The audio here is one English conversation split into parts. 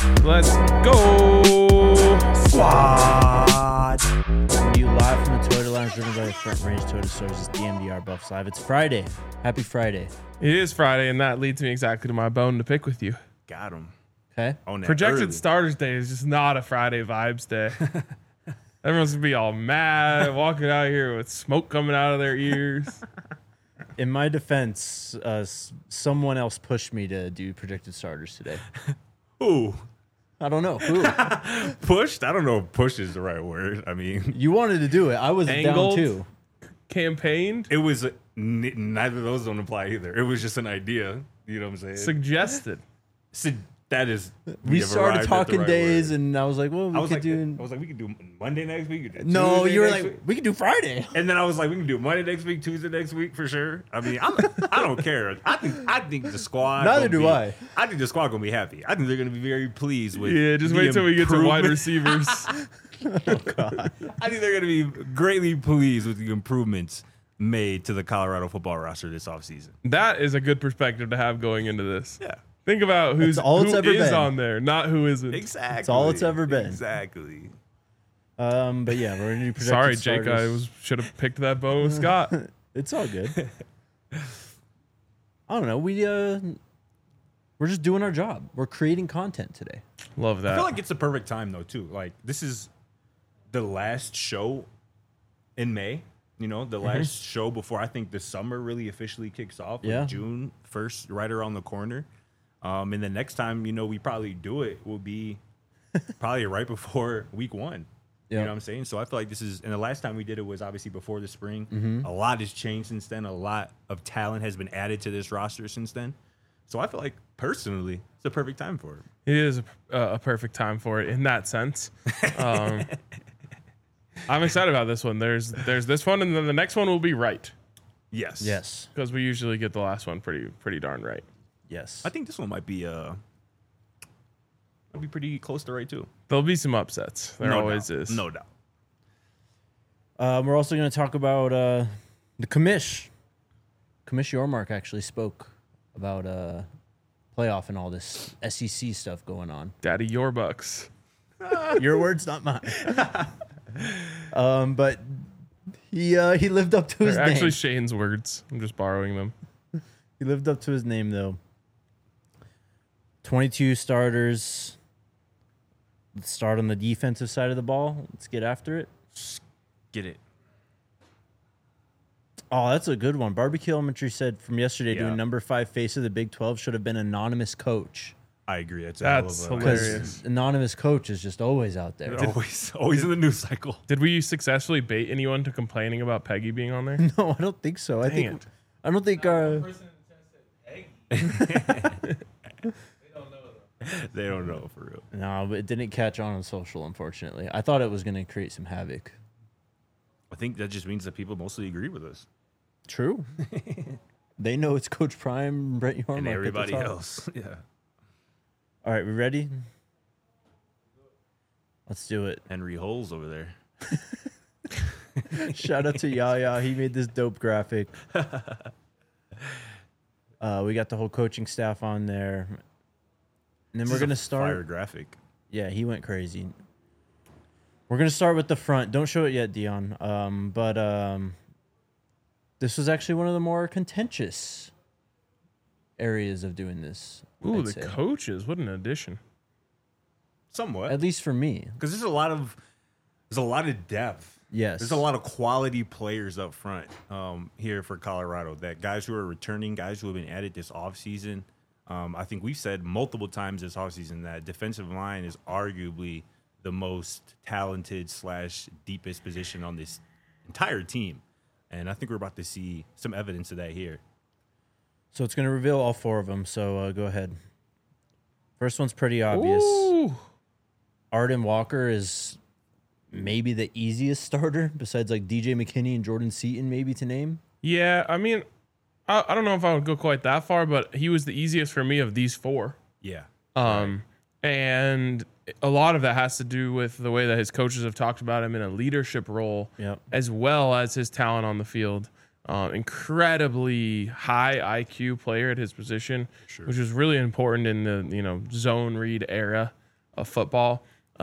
Let's go. Squad. You live from the Toyota Lounge, driven by the Front Range Toyota Stores. It's DMDR Buffs Live. It's Friday. Happy Friday. It is Friday, and that leads me exactly to my bone to pick with you. Got him. Okay. On that Projected early. Starters Day is just not a Friday vibes day. Everyone's gonna be all mad, walking out here with smoke coming out of their ears. In my defense, someone else pushed me to do projected starters today. Ooh. I don't know who. Pushed? I don't know if push is the right word. I mean, You wanted to do it. I was Angled? down too. Campaigned, it was neither of those don't apply either. It was just an idea. You know what I'm saying? suggested. So that is. We have started arrived at the talking right days, word. and I was like, "Well, we I was could like, do." we could do Monday next week. No, Tuesday you were next like, week. "We could do Friday." And then I was like, we can do Monday next week, Tuesday next week for sure. I mean, I don't care. I think the squad. Neither gonna do I. I think the squad gonna be happy. I think they're gonna be very pleased with. Yeah, just the wait till we get to wide improvement. receivers. I think they're gonna be greatly pleased with the improvements made to the Colorado football roster this offseason. That is a good perspective to have going into this. Yeah, Think about who That's all it's is ever been. on there, not who isn't. exactly. That's all it's ever been. Exactly. But yeah, we're gonna do projected Sorry, Jake. starters. Should have picked that bone with Scott. It's all good. I don't know. We're just doing our job. We're creating content today. Love that. I feel like it's the perfect time though too. Like this is the last show in May. You know, the last show before I think the summer really officially kicks off. Like Yeah. June 1st, right around the corner. And the next time, we probably do it will be probably right before week one. You Yeah. know what I'm saying? So I feel like this is, and the last time we did it was obviously before the spring. Mm-hmm. A lot has changed since then. A lot of talent has been added to this roster since then. So I feel like personally, it's the perfect time for it. It is a perfect time for it in that sense. I'm excited about this one. There's this one, and then the next one will be right Yes. Yes. because we usually get the last one pretty darn right. Yes. I think this one might be pretty close to right too. There'll be some upsets. There No always doubt. is. No doubt. We're also going to talk about the commish. Commish Yormark actually spoke about playoff and all this SEC stuff going on. Daddy, your bucks. Your words, not mine. But he lived up to his They're actually name. Shane's words. I'm just borrowing them. He lived up to his name, though. 22 starters. Let's start on the defensive side of the ball. Let's get after it. Get it. Oh, that's a good one. Barbecue Elementary said from yesterday Yeah. doing number 5 face of the Big 12 should have been anonymous coach. I agree. That's That's a hell of a hilarious. Because anonymous coach is just always out there. always in the news cycle. Did we successfully bait anyone to complaining about Peggy being on there? No, I don't think so. I Dang think it. I don't think They don't know for real. no, but it didn't catch on social, unfortunately. I thought it was going to create some havoc. I think that just means that people mostly agree with us True. They know it's Coach Prime, Brett Yormark, and at the everybody top. else. Yeah. All right, we ready? Let's do it. Henry Holes over there. Shout out to Yaya. He made this dope graphic. We got the whole coaching staff on there. And then This we're is going a to start. fire graphic. Yeah, he went crazy. We're going to start with the front. Don't show it yet, Dion. But this was actually one of the more contentious areas of doing this. Ooh, I'd the say. coaches. What an addition. Somewhat. At least for me. Because there's a lot of depth. Yes. There's a lot of quality players up front here for Colorado. That guys who are returning, guys who have been added this offseason. I think we've said multiple times this offseason that defensive line is arguably the most talented / deepest position on this entire team. And I think we're about to see some evidence of that here. So it's going to reveal all 4 of them. So go ahead. First one's pretty obvious. Ooh. Arden Walker is maybe the easiest starter besides like DJ McKinney and Jordan Seaton maybe to name. Yeah, I mean, I don't know if I would go quite that far, but he was the easiest for me of these 4. Yeah. And a lot of that has to do with the way that his coaches have talked about him in a leadership role, Yep. as well as his talent on the field. Incredibly high IQ player at his position, which was really important in the zone read era. of football.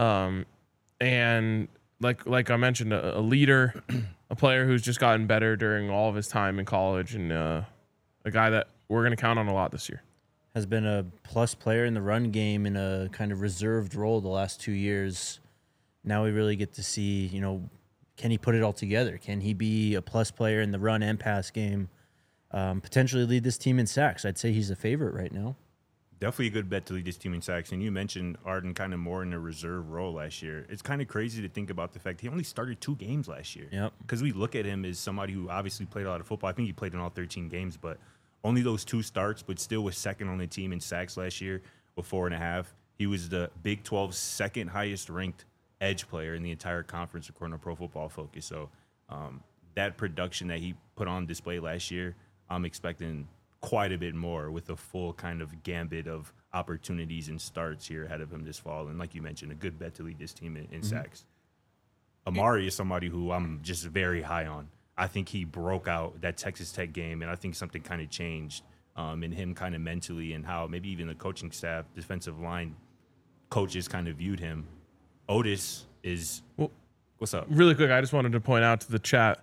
And like I mentioned, a leader, a player who's just gotten better during all of his time in college, and a guy that we're going to count on a lot this year. Has been a plus player in the run game in a kind of reserved role the last 2 years. Now we really get to see, can he put it all together? Can he be a plus player in the run and pass game? Potentially lead this team in sacks. I'd say he's a favorite right now. Definitely a good bet to lead this team in sacks. And you mentioned Arden kind of more in a reserve role last year. It's kind of crazy to think about the fact he only started 2 games last year. Yep. Because we look at him as somebody who obviously played a lot of football. I think he played in all 13 games, but only those 2 starts, but still was second on the team in sacks last year with 4.5. He was the Big 12's second highest ranked edge player in the entire conference according to Pro Football Focus. So that production that he put on display last year, I'm expecting quite a bit more with a full kind of gambit of opportunities and starts here ahead of him this fall. And like you mentioned, a good bet to lead this team in sacks. Amari is somebody who I'm just very high on. I think he broke out that Texas Tech game, and I think something kind of changed in him kind of mentally and how maybe even the coaching staff, defensive line coaches kind of viewed him. Otis is what's up? Really quick, I just wanted to point out to the chat,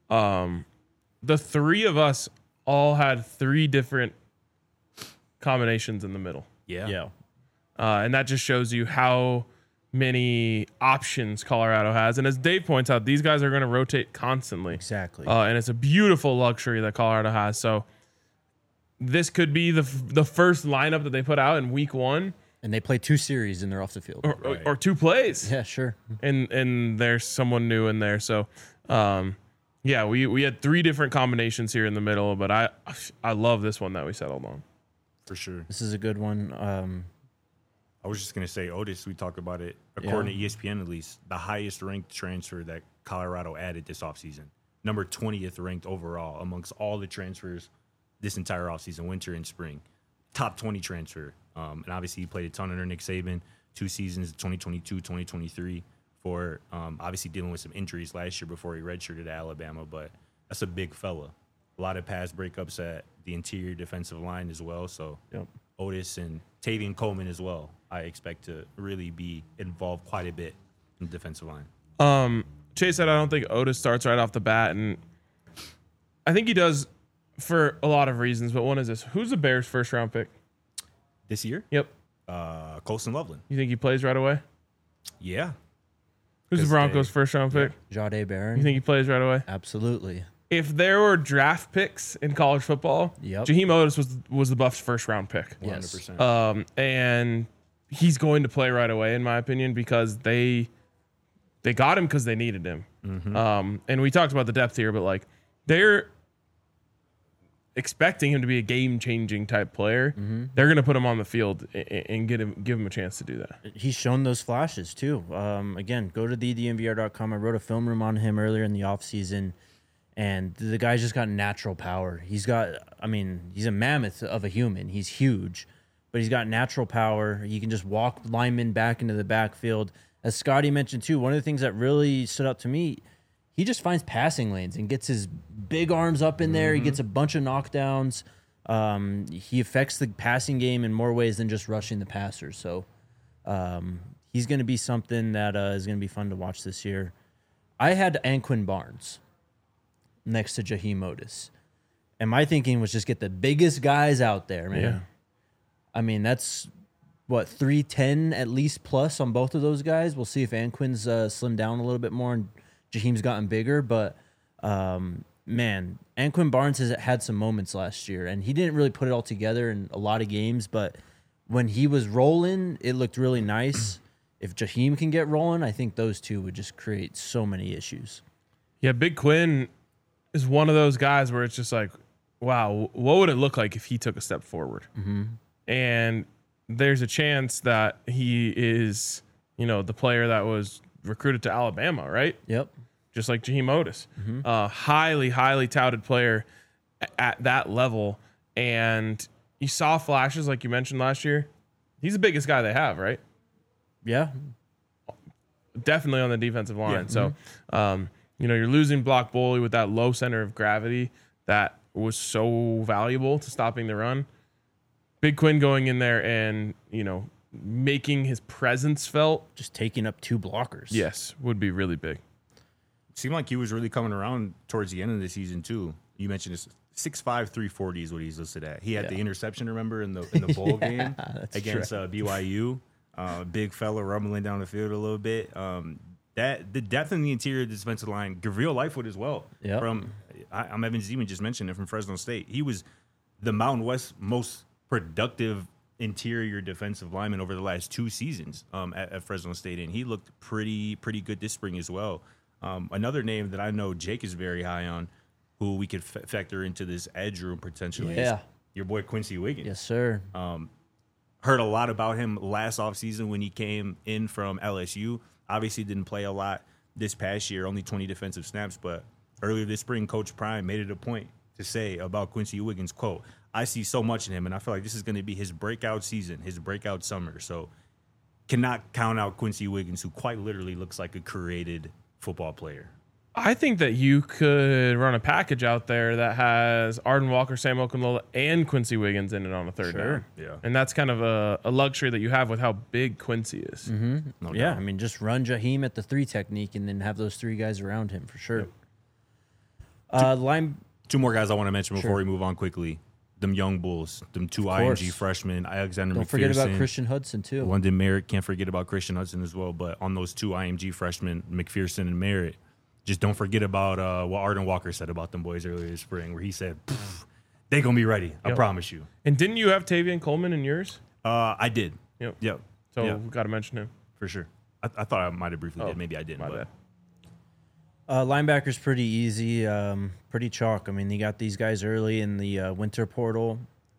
the 3 of us all had 3 different combinations in the middle. Yeah. And that just shows you how many options Colorado has. And as Dave points out, these guys are going to rotate constantly. Exactly. And it's a beautiful luxury that Colorado has. So this could be the first lineup that they put out in week 1. And they play 2 series and they're off the field. Or 2 plays. Yeah, sure. And there's someone new in there. So, yeah, we had 3 different combinations here in the middle, but I love this one that we settled on. For sure. This is a good one. I was just going to say, Otis, we talked about it, according to ESPN at least, the highest ranked transfer that Colorado added this offseason. Number 20th ranked overall amongst all the transfers this entire offseason, winter and spring. Top 20 transfer. And obviously he played a ton under Nick Saban, 2 seasons, 2022, 2023, for obviously dealing with some injuries last year before he redshirted at Alabama. But that's a big fella. A lot of pass breakups at the interior defensive line as well. So Otis and Tavian Coleman as well, I expect to really be involved quite a bit in the defensive line. Chase said, I don't think Otis starts right off the bat. And I think he does for a lot of reasons. But one is this. Who's the Bears' first round pick? This year? Yep. Colson Loveland. You think he plays right away? Yeah. Who's the Broncos' first round pick? Jahdae Barron. You think he plays right away? Absolutely. If there were draft picks in college football, Jaheim Otis was the Buffs' first round pick. 100%. And he's going to play right away, in my opinion, because they got him because they needed him. And we talked about the depth here, but like they're expecting him to be a game-changing type player. They're going to put him on the field and give him a chance to do that. He's shown those flashes too. Again, go to thedmvr.com. I wrote a film room on him earlier in the offseason, and the guy's just got natural power. He's a mammoth of a human. He's huge, but he's got natural power. He can just walk linemen back into the backfield. As Scotty mentioned too, one of the things that really stood out to me, he just finds passing lanes and gets his big arms up in there. He gets a bunch of knockdowns. He affects the passing game in more ways than just rushing the passer. So he's going to be something that is going to be fun to watch this year. I had Anquin Barnes next to Jaheim Otis. And my thinking was just get the biggest guys out there, man. Yeah. I mean, that's, 310 at least plus on both of those guys. We'll see if Anquin's slimmed down a little bit more and Jaheim's gotten bigger. But, man, Anquin Barnes has had some moments last year, and he didn't really put it all together in a lot of games. But when he was rolling, it looked really nice. If Jaheim can get rolling, I think those two would just create so many issues. Yeah, Big Quinn is one of those guys where it's just like, wow, what would it look like if he took a step forward? And there's a chance that he is, the player that was recruited to Alabama, right? Yep. Just like Jaheim Otis. Highly, highly touted player at that level. And you saw flashes like you mentioned last year. He's the biggest guy they have, right? Yeah. Definitely on the defensive line. So, you're losing Block Boley with that low center of gravity that was so valuable to stopping the run. Big Quinn going in there and, making his presence felt, Just taking up 2 blockers. yes, would be really big. Seemed like he was really coming around towards the end of the season too. You mentioned this 6'5", 340 is what he's listed at. He had the interception, remember, in the bowl game against BYU. Big fella rumbling down the field a little bit. That the depth in the interior defensive line, Gabriel Lightfoot as well. Yep. I'm Evan Zeman just mentioned it from Fresno State. He was the Mountain West most productive interior defensive lineman over the last 2 seasons at Fresno State, and he looked pretty good this spring as well. Another name that I know Jake is very high on, who we could factor into this edge room potentially, is your boy Quincy Wiggins. Yes, sir. Heard a lot about him last offseason when he came in from LSU. Obviously didn't play a lot this past year, only 20 defensive snaps, but earlier this spring, Coach Prime made it a point to say about Quincy Wiggins, quote, I see so much in him, and I feel like this is going to be his breakout season, his breakout summer. So cannot count out Quincy Wiggins, who quite literally looks like a created football player. I think that you could run a package out there that has Arden Walker, Sam Okunlola, and Quincy Wiggins in it on a third down. Yeah. And that's kind of a luxury that you have with how big Quincy is. No Yeah, doubt. I mean, just run Jaheim at the 3 technique and then have those 3 guys around him for sure. Line 2 more guys I want to mention before we move on quickly. Them young bulls, them 2 course. IMG freshmen, Alexander Don't McPherson. forget about Christian Hudson too. London Merritt, can't forget about Christian Hudson as well. But on those 2 IMG freshmen, McPherson and Merritt, just don't forget about what Arden Walker said about them boys earlier this spring, where he said, they going to be ready. I promise you. And didn't you have Tavian Coleman in yours? I did. Yep. So we got to mention him. For sure. I thought I might have briefly did. Maybe I didn't. My But bad. Linebacker's pretty easy, pretty chalk. I mean, you got these guys early in the winter portal.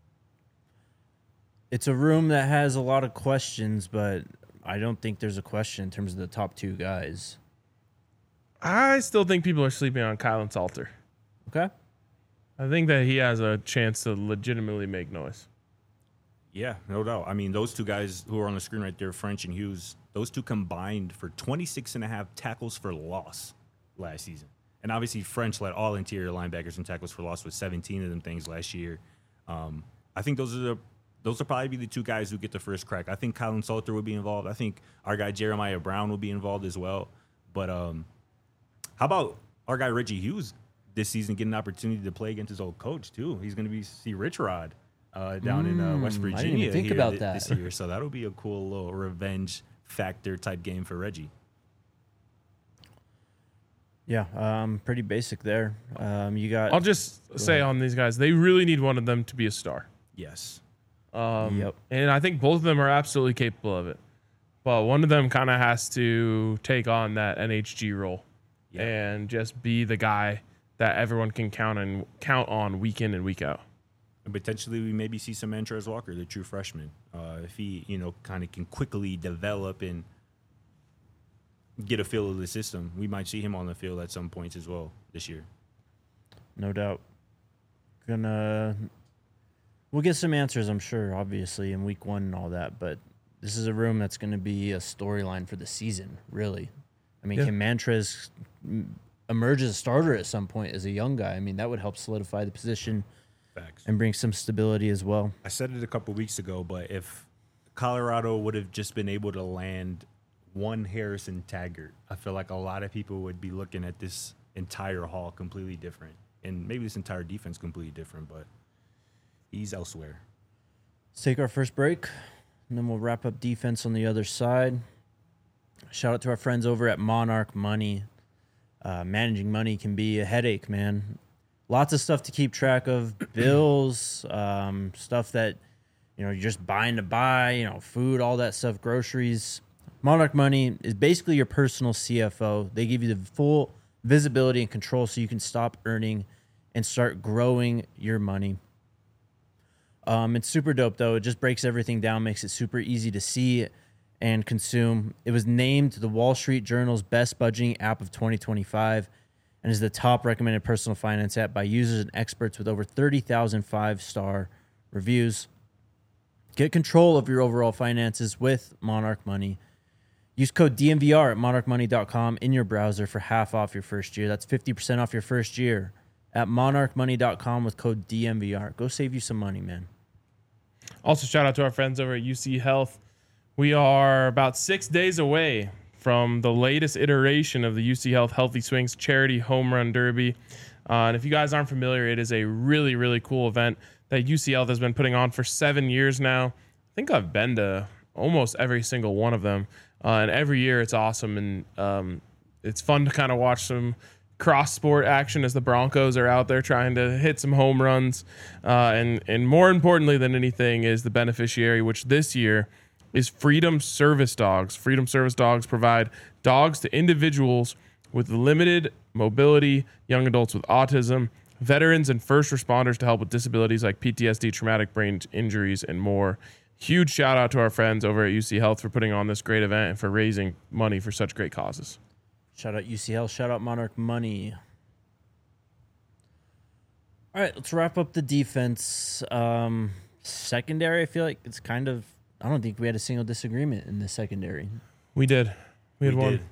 It's a room that has a lot of questions, but I don't think there's a question in terms of the top 2 guys. I still think people are sleeping on Kylan Salter. Okay. I think that he has a chance to legitimately make noise. yeah, no doubt. I mean, those 2 guys who are on the screen right there, French and Hughes, those 2 combined for 26.5 tackles for loss last season. And obviously, French led all interior linebackers in tackles for loss with 17 of them things last year. I think those will probably be the 2 guys who get the first crack. I think Kylan Salter would be involved. I think our guy Jeremiah Brown will be involved as well. But how about our guy Reggie Hughes this season getting an opportunity to play against his old coach too? He's going to see Rich Rod down in West Virginia. I didn't even think about that this year. So that'll be a cool little revenge factor type game for Reggie. Yeah, pretty basic there. You got. I'll just say on these guys, they really need one of them to be a star. Yes. Yep. And I think both of them are absolutely capable of it. But one of them kind of has to take on that NHG role and just be the guy that everyone can count on week in and week out. And potentially we maybe see some Montrez Walker, the true freshman, if he, kind of can quickly develop and get a feel of the system. We might see him on the field at some points as well this year. No doubt. We'll get some answers, I'm sure, obviously, in week 1 and all that, but this is a room that's going to be a storyline for the season, really. I mean, can Montrez emerge as a starter at some point as a young guy? I mean, that would help solidify the position. Facts. And bring some stability as well. I said it a couple weeks ago, but if Colorado would have just been able to land one Harrison Taggart, I feel like a lot of people would be looking at this entire haul completely different. And maybe this entire defense completely different, but he's elsewhere. Let's take our first break, and then we'll wrap up defense on the other side. Shout out to our friends over at Monarch Money. Managing money can be a headache, man. Lots of stuff to keep track of, bills, stuff that, you're just buying to buy, food, all that stuff, groceries. Monarch Money is basically your personal CFO. They give you the full visibility and control so you can stop earning and start growing your money. It's super dope, though. It just breaks everything down, makes it super easy to see and consume. It was named the Wall Street Journal's best budgeting app of 2025 and is the top recommended personal finance app by users and experts with over 30,000 5-star reviews. Get control of your overall finances with Monarch Money. Use code DMVR at monarchmoney.com in your browser for half off your first year. That's 50% off your first year at monarchmoney.com with code DMVR. Go save you some money, man. Also, shout out to our friends over at UC Health. We are about 6 days away from the latest iteration of the UC Health Healthy Swings Charity Home Run Derby. And if you guys aren't familiar, it is a really, really cool event that UC Health has been putting on for 7 years now. I think I've been to almost every single one of them. And every year it's awesome. And it's fun to kind of watch some cross-sport action as the Broncos are out there trying to hit some home runs. And more importantly than anything is the beneficiary, which this year is Freedom Service Dogs. Freedom Service Dogs provide dogs to individuals with limited mobility, young adults with autism, veterans, and first responders to help with disabilities like PTSD, traumatic brain injuries, and more. Huge shout out to our friends over at UC Health for putting on this great event and for raising money for such great causes. Shout out UC Health. Shout out Monarch Money. All right, let's wrap up the defense. Secondary, I feel like it's kind of... I don't think we had a single disagreement in the secondary. We did. We had one.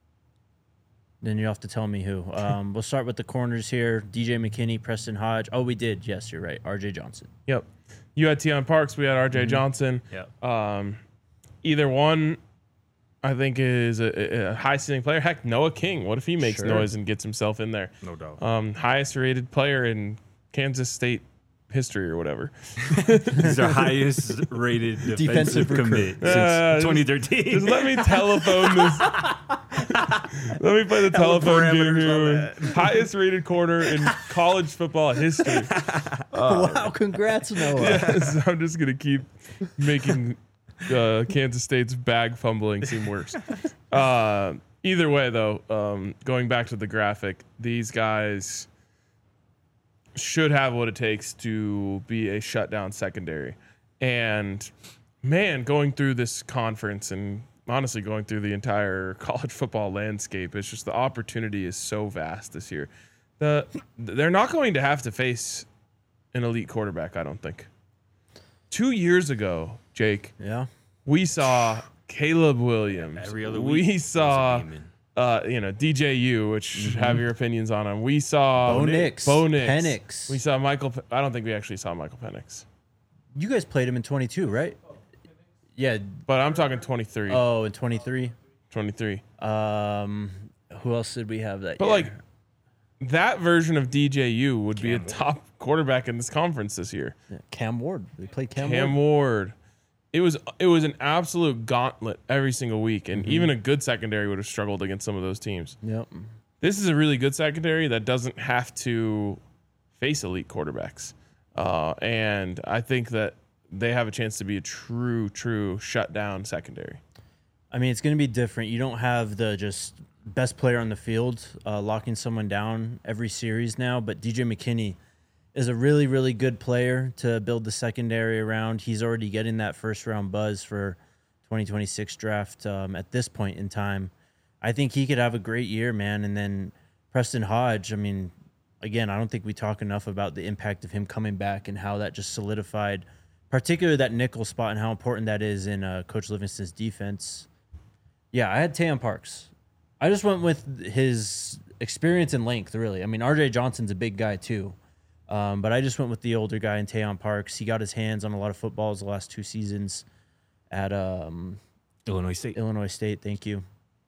Then you have to tell me who. We'll start with the corners here. DJ McKinney, Preston Hodge. Oh, we did. Yes, you're right. RJ Johnson. Yep. You had Tion Parks. We had RJ Johnson. Yep. Either one, I think, is a high ceiling player. Heck, Noah King. What if he makes noise and gets himself in there? No doubt. Highest rated player in Kansas State history or whatever. He's our highest rated defensive commit since 2013. Just let me telephone this. Let me play the telephone game here. Highest rated corner in college football history. Wow, congrats, Noah. Yes, I'm just going to keep making Kansas State's bag fumbling seem worse. Either way, though, going back to the graphic, these guys should have what it takes to be a shutdown secondary. And man, going through this conference and honestly going through the entire college football landscape, it's just the opportunity is so vast this year. They're not going to have to face an elite quarterback, I don't think. 2 years ago, Jake, we saw Caleb Williams. Every other week. We saw DJU, which have your opinions on him. We saw Bo Nix. Penix. We saw Michael. I don't think we actually saw Michael Penix. You guys played him in 22, right? Yeah. But I'm talking 23. Oh, in 23? 23. Who else did we have that But year? like that version of DJU would be a top quarterback in this conference this year. Yeah, Cam Ward. They played Cam Ward. It was an absolute gauntlet every single week, and even a good secondary would have struggled against some of those teams. Yep. This is a really good secondary that doesn't have to face elite quarterbacks, and I think that they have a chance to be a true shutdown secondary. I mean, it's going to be different. You don't have the just best player on the field locking someone down every series now, but DJ McKinney is a really, really good player to build the secondary around. He's already getting that first-round buzz for 2026 draft at this point in time. I think he could have a great year, man. And then Preston Hodge, I mean, again, I don't think we talk enough about the impact of him coming back and how that just solidified, particularly that nickel spot and how important that is in Coach Livingston's defense. Yeah, I had Tion Parks. I just went with his experience and length, really. I mean, RJ Johnson's a big guy, too. But I just went with the older guy in Tion Parks. He got his hands on a lot of footballs the last 2 seasons at Illinois State. Illinois State, thank you.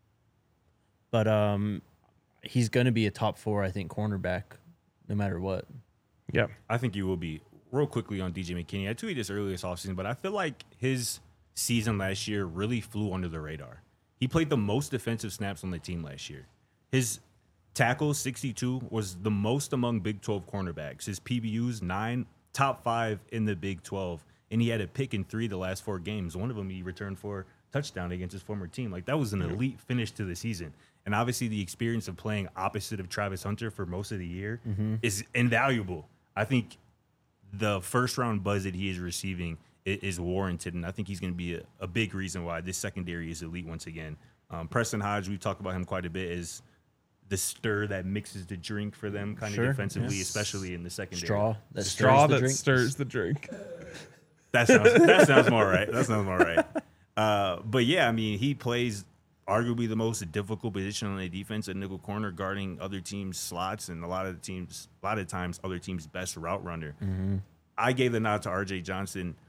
But he's going to be a top 4, I think, cornerback, no matter what. Yeah, I think you will be. Real quickly on DJ McKinney, I tweeted this earlier this offseason, but I feel like his season last year really flew under the radar. He played the most defensive snaps on the team last year. His tackles, 62, was the most among Big 12 cornerbacks. His PBUs, 9, top 5 in the Big 12. And he had a pick in 3 the last 4 games. One of them he returned for a touchdown against his former team. Like, that was an elite finish to the season. And obviously the experience of playing opposite of Travis Hunter for most of the year is invaluable. I think the first-round buzz that he is receiving is warranted, and I think he's going to be a big reason why this secondary is elite once again. Preston Hodge, we've talked about him quite a bit, is the stir that mixes the drink for them kind of defensively, especially in the secondary. Straw that stirs the drink. That sounds more right. That sounds more right. But yeah, I mean, he plays arguably the most difficult position on the defense at nickel corner, guarding other teams' slots, and a lot of times other teams' best route runner. I gave the nod to RJ Johnson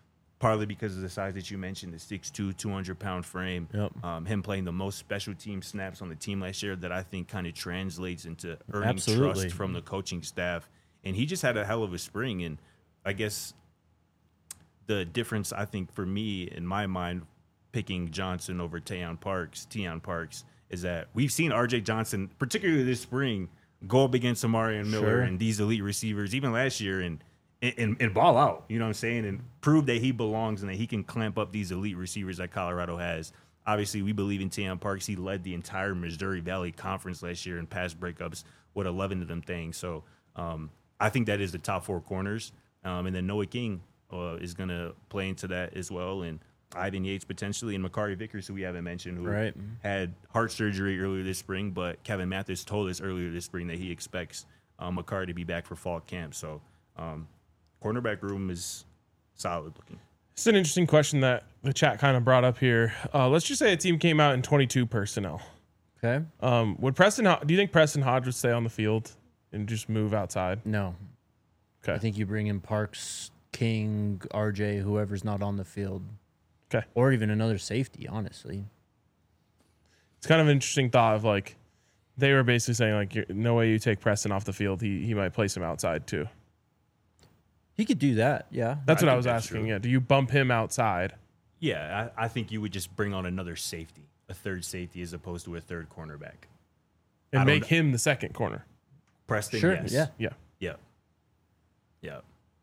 partly because of the size that you mentioned, the 6'2", 200-pound frame. Yep. Him playing the most special team snaps on the team last year that I think kind of translates into earning Absolutely. trust from the coaching staff. And he just had a hell of a spring. And I guess the difference, I think, for me, in my mind, picking Johnson over Teion Parks, is that we've seen R.J. Johnson, particularly this spring, go up against Amari and Miller Sure. and these elite receivers, even last year, and ball out, you know what I'm saying, and prove that he belongs and that he can clamp up these elite receivers that Colorado has. Obviously, we believe in Teion Parks. He led the entire Missouri Valley Conference last year in pass breakups with 11 of them things. So I think that is the top 4 corners. And then Noah King is going to play into that as well. And Ivan Yates potentially, and Makari Vickers, who we haven't mentioned, who Right. had heart surgery earlier this spring. But Kevin Mathis told us earlier this spring that he expects Makari to be back for fall camp. So cornerback room is solid looking. It's an interesting question that the chat kind of brought up here. Let's just say a team came out in 22 personnel. Okay. Would Preston? Do you think Preston Hodge would stay on the field and just move outside? No. Okay. I think you bring in Parks, King, RJ, whoever's not on the field. Okay. Or even another safety, honestly. It's kind of an interesting thought of like they were basically saying like no way you take Preston off the field. He might place him outside too. He could do that, yeah. That's I what I think was that's asking. true. Yeah. Do you bump him outside? Yeah, I think you would just bring on another safety, a third safety as opposed to a third cornerback. And I don't make know. him the second corner. Preston, Sure, yes. yeah. Yeah. Yeah. Yeah.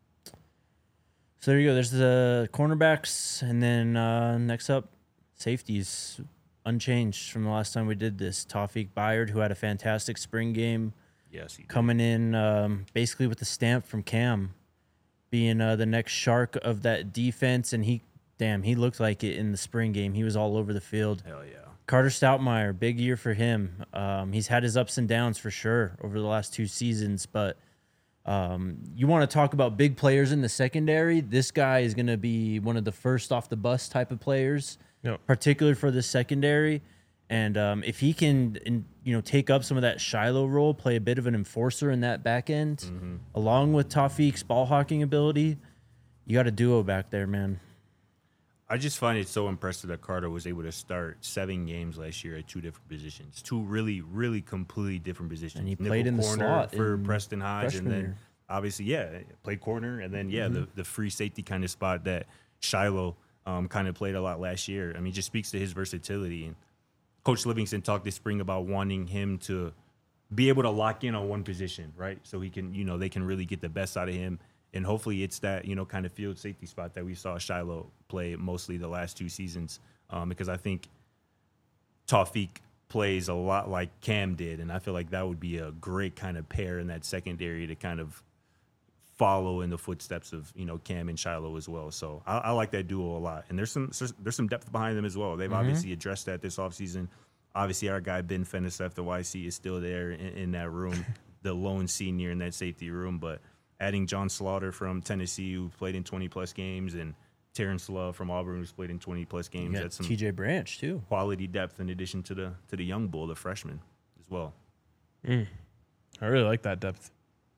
So there you go. There's the cornerbacks, and then next up, safeties, unchanged from the last time we did this. Tawfiq Bayard, who had a fantastic spring game, Yes, he did. coming in basically with the stamp from Cam, being the next shark of that defense, and he looked like it in the spring game. He was all over the field. Hell yeah. Carter Stoutmeyer, big year for him. He's had his ups and downs for sure over the last 2 seasons, but you want to talk about big players in the secondary. This guy is going to be one of the first off the bus type of players, Yep. particularly for the secondary. And if he can, take up some of that Shiloh role, play a bit of an enforcer in that back end, along with Tawfiq's ball hawking ability, you got a duo back there, man. I just find it so impressive that Carter was able to start 7 games last year at 2 different positions, 2 really, really completely different positions. And he Nickel played in the corner slot for in Preston Hodge, and freshman then year. obviously, played corner, and then the free safety kind of spot that Shiloh kind of played a lot last year. I mean, just speaks to his versatility. And Coach Livingston talked this spring about wanting him to be able to lock in on one position, right? So he can, they can really get the best out of him. And hopefully it's that, kind of field safety spot that we saw Shiloh play mostly the last 2 seasons. Because I think Tawfiq plays a lot like Cam did. And I feel like that would be a great kind of pair in that secondary to kind of follow in the footsteps of, Cam and Shiloh as well. So I like that duo a lot. And there's some depth behind them as well. They've obviously addressed that this offseason. Obviously, our guy Ben Fenisef, the YC, is still there in that room, the lone senior in that safety room. But adding John Slaughter from Tennessee, who played in 20-plus games, and Terrence Love from Auburn, who's played in 20-plus You games. got That's some TJ Branch, too. quality depth in addition to the young bull, the freshman, as well. I really like that depth.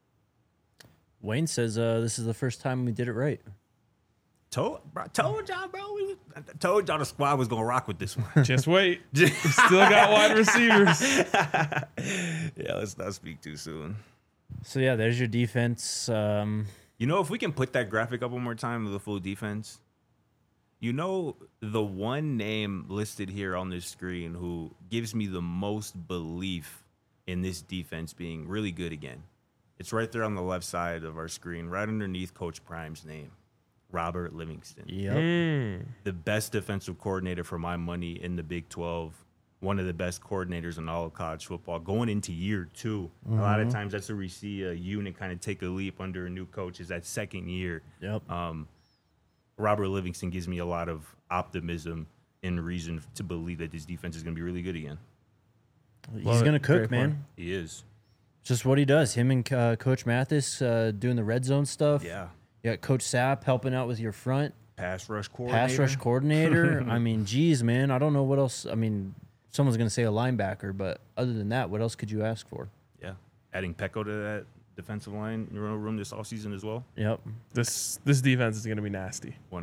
Wayne says this is the first time we did it right. Told y'all, bro. Told y'all the squad was going to rock with this one. Just wait. Still got wide receivers. Yeah, let's not speak too soon. So, yeah, there's your defense. If we can put that graphic up one more time of the full defense, the one name listed here on this screen who gives me the most belief in this defense being really good again. It's right there on the left side of our screen, right underneath Coach Prime's name, Robert Livingston. Yep. The best defensive coordinator for my money in the Big 12. One of the best coordinators in all of college football going into year 2. A lot of times that's where we see a unit kind of take a leap under a new coach is that second year. Yep. Robert Livingston gives me a lot of optimism and reason to believe that this defense is going to be really good again. He's Love going to it. cook, Great man. point. He is. Just what he does. Him and Coach Mathis doing the red zone stuff. Yeah. You got Coach Sapp helping out with your front. Pass rush coordinator. Pass rush coordinator. I mean, geez, man. I don't know what else. I mean, someone's going to say a linebacker, but other than that, what else could you ask for? Yeah. Adding Pecco to that defensive line room this offseason as well. Yep. This defense is going to be nasty.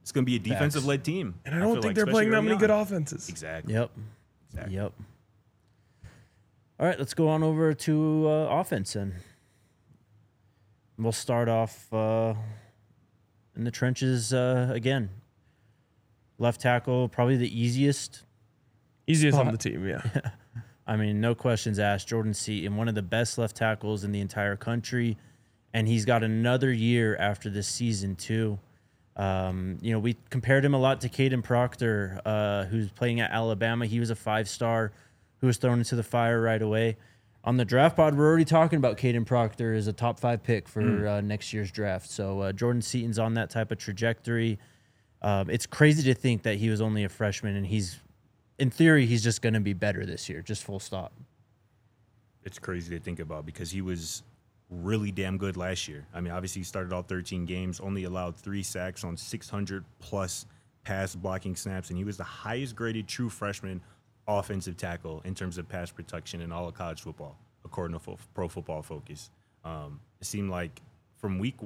It's going to be a defensive-led team. And I don't feel think like, they're playing especially that early many on. good offenses. Exactly. Yep. Exactly. Yep. All right, let's go on over to offense then. We'll start off in the trenches again. Left tackle, probably the easiest. Easiest on Spot. the team, yeah. I mean, no questions asked. Jordan Seaton, one of the best left tackles in the entire country, and he's got another year after this season too. We compared him a lot to Caden Proctor, who's playing at Alabama. He was a 5-star who was thrown into the fire right away. On the draft pod, we're already talking about Caden Proctor as a top 5 pick for next year's draft. So Jordan Seaton's on that type of trajectory. It's crazy to think that he was only a freshman, and in theory, he's just going to be better this year, just full stop. It's crazy to think about because he was really damn good last year. I mean, obviously he started all 13 games, only allowed 3 sacks on 600-plus pass blocking snaps, and he was the highest-graded true freshman offensive tackle in terms of pass protection in all of college football, according to Pro Football Focus. It seemed like from week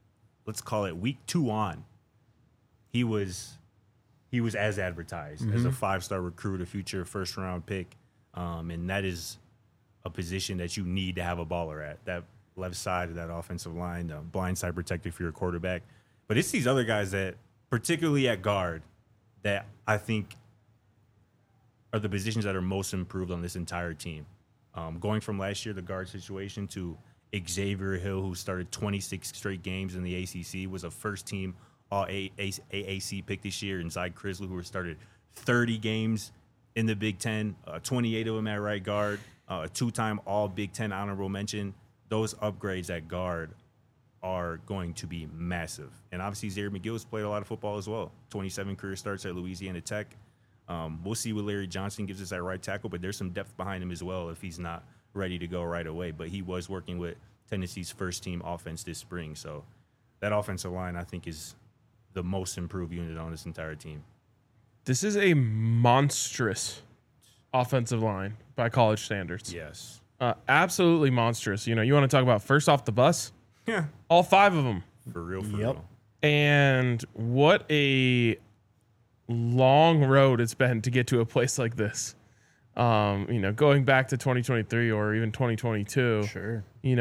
2 on, he was as advertised as a 5-star recruit, a future first-round pick, and that is a position that you need to have a baller at, that left side of that offensive line, the blind side protector for your quarterback. But it's these other guys that, particularly at guard, that I think are the positions that are most improved on this entire team. Going from last year, the guard situation, to Xavier Hill, who started 26 straight games in the ACC, was a first-team All-AAC pick this year, and Zy Crisley, who started 30 games in the Big Ten, 28 of them at right guard, a 2-time All-Big Ten honorable mention. Those upgrades at guard are going to be massive. And obviously, Zaire McGill's played a lot of football as well. 27 career starts at Louisiana Tech. We'll see what Larry Johnson gives us at right tackle, but there's some depth behind him as well if he's not ready to go right away. But he was working with Tennessee's first-team offense this spring. So that offensive line, I think, is the most improved unit on this entire team. This is a monstrous offensive line by college standards. Yes. Absolutely monstrous. You want to talk about first off the bus? Yeah. All 5 of them. For real, for Yep. real. And what a long road it's been to get to a place like this. Going back to 2023 or even 2022. Sure.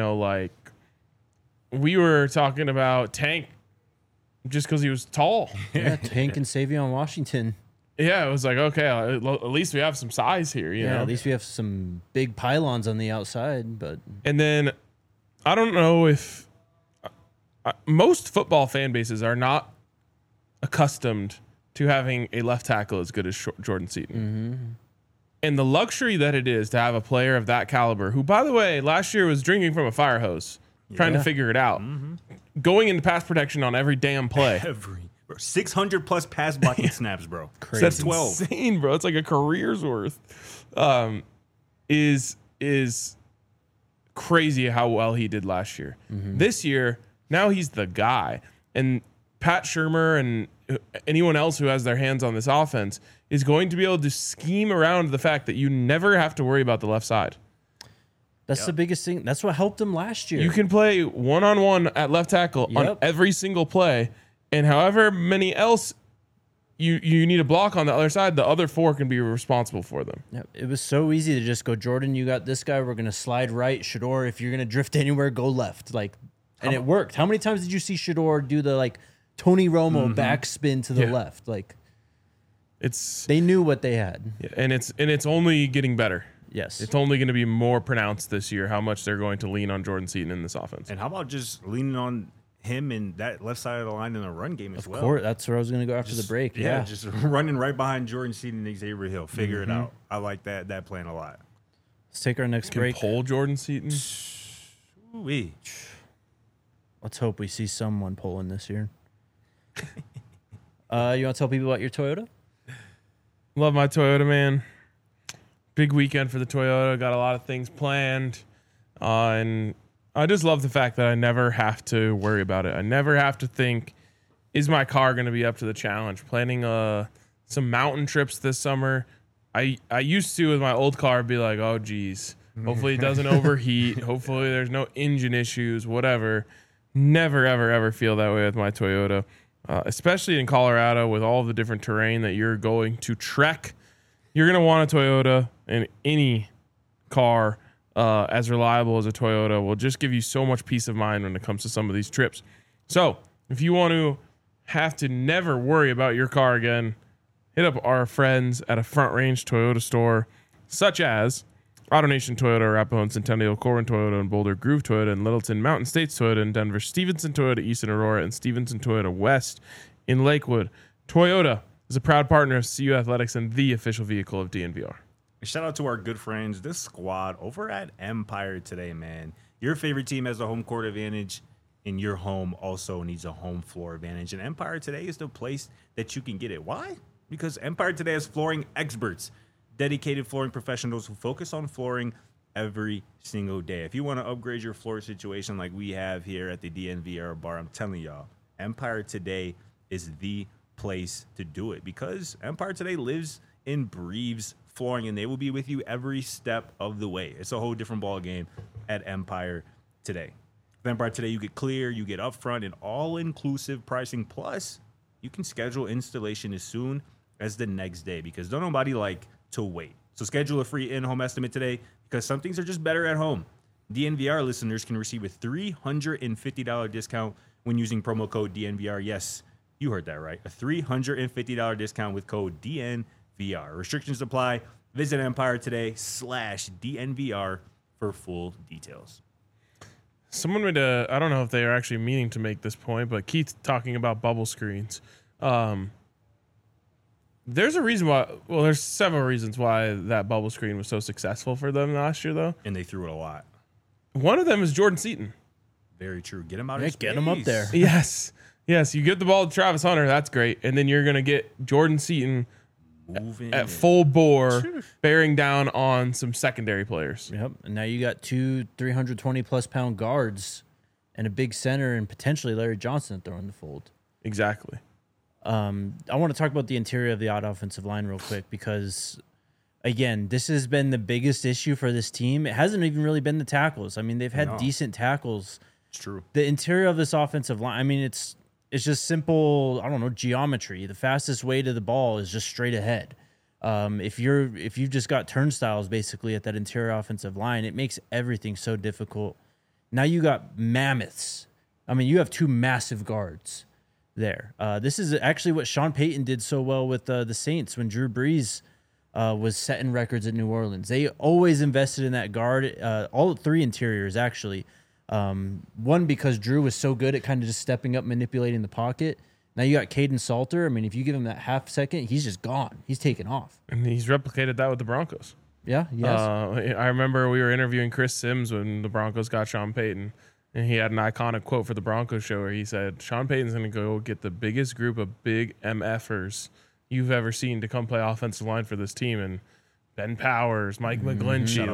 We were talking about Tank just because he was tall. Yeah, Tank and Savion Washington. Yeah, it was like, okay, at least we have some size here, you know? At least we have some big pylons on the outside, but And then I don't know if most football fan bases are not accustomed to having a left tackle as good as Jordan Seaton. Mm-hmm. And the luxury that it is to have a player of that caliber, who, by the way, last year was drinking from a fire hose, trying to figure it out, going into pass protection on every damn play. 600-plus pass blocking snaps, bro. Crazy. That's 12. insane, bro. It's like a career's worth. Is crazy how well he did last year. This year, now he's the guy. And Pat Shurmur and anyone else who has their hands on this offense is going to be able to scheme around the fact that you never have to worry about the left side. that's the biggest thing. That's what helped him last year. You can play one-on-one at left tackle on Yep. every single play, and however many else you need a block on the other side, the other 4 can be responsible for them. Yeah, it was so easy to just go, Jordan, you got this guy. We're going to slide right. Shador, if you're going to drift anywhere, go left. And it worked. How many times did you see Shador do the Tony Romo backspin to the Yeah. left? It's They knew what they had. and it's only getting better. Yes. It's only going to be more pronounced this year how much they're going to lean on Jordan Seaton in this offense. And how about just leaning on him and that left side of the line in the run game as well? Of course, that's where I was going to go after the break. Yeah. Just running right behind Jordan Seaton and Xavier Hill. Figure it out. I like that plan a lot. Let's take our next Can break. pull Jordan Seaton. Ooh-wee. Let's hope we see someone pulling this year. You want to tell people about your Toyota? Love my Toyota, man. Big weekend for the Toyota. Got a lot of things planned. And I just love the fact that I never have to worry about it. I never have to think, is my car going to be up to the challenge? Planning some mountain trips this summer. I used to, with my old car, be like, oh, geez. Hopefully it doesn't overheat. Hopefully there's no engine issues, whatever. Never, ever, ever feel that way with my Toyota. especially in Colorado with all the different terrain that you're going to trek. You're going to want a Toyota, and any car as reliable as a Toyota will just give you so much peace of mind when it comes to some of these trips. So if you want to have to never worry about your car again, hit up our friends at a Front Range Toyota store, such as AutoNation Toyota, Arapahoe and Centennial, Corwin Toyota and Boulder, Groove Toyota and Littleton, Mountain States Toyota in Denver, Stevenson Toyota East in Aurora, and Stevenson Toyota West in Lakewood. Toyota is a proud partner of CU Athletics and the official vehicle of DNVR. Shout out to our good friends, this squad over at Empire today, man. Your favorite team has a home court advantage, and your home also needs a home floor advantage. And Empire today is the place that you can get it. Why? Because Empire today has flooring experts, dedicated flooring professionals who focus on flooring every single day. If you want to upgrade your floor situation like we have here at the DNVR bar, I'm telling y'all, Empire today is the place to do it, because Empire today lives and breathes flooring, and they will be with you every step of the way. It's a whole different ball game at Empire today. With Empire today, you get clear, you get upfront and all-inclusive pricing, plus you can schedule installation as soon as the next day, because don't nobody like to wait. So schedule a free in-home estimate today, because some things are just better at home. DNVR listeners can receive a $350 discount when using promo code DNVR. Yes, you heard that right. A $350 discount with code DNVR. Restrictions apply. Visit Empire today/DNVR for full details. Someone made I don't know if they are actually meaning to make this point, but Keith talking about bubble screens. There's a reason why, well, there's several reasons why that bubble screen was so successful for them last year, though. And they threw it a lot. One of them is Jordan Seaton. Very true. Get him out of space. Get him up there. Yes. You get the ball to Travis Hunter. That's great. And then you're going to get Jordan Seaton Moving at full bore, bearing down on some secondary players. Yep. And now you got two 320-plus pound guards and a big center and potentially Larry Johnson throwing the fold. Exactly. I want to talk about the interior of the odd offensive line real quick, because, again, this has been the biggest issue for this team. It hasn't even really been the tackles. I mean, they've had decent tackles. It's true. The interior of this offensive line, I mean, it's just simple, I don't know, geometry. The fastest way to the ball is just straight ahead. If you've just got turnstiles basically at that interior offensive line, it makes everything so difficult. Now you got mammoths. I mean, you have two massive guards there. This is actually what Sean Payton did so well with the Saints when Drew Brees was setting records at New Orleans. They always invested in that guard, all three interiors actually. One, because Drew was so good at kind of just stepping up, manipulating the pocket. Now you got Caden Salter. I mean, if you give him that half second, he's just gone. He's taken off. And he's replicated that with the Broncos. Yeah, yes. I remember we were interviewing Chris Sims when the Broncos got Sean Payton, and he had an iconic quote for the Broncos show where he said, Sean Payton's going to go get the biggest group of big MFers you've ever seen to come play offensive line for this team. And Ben Powers, Mike McGlinchey,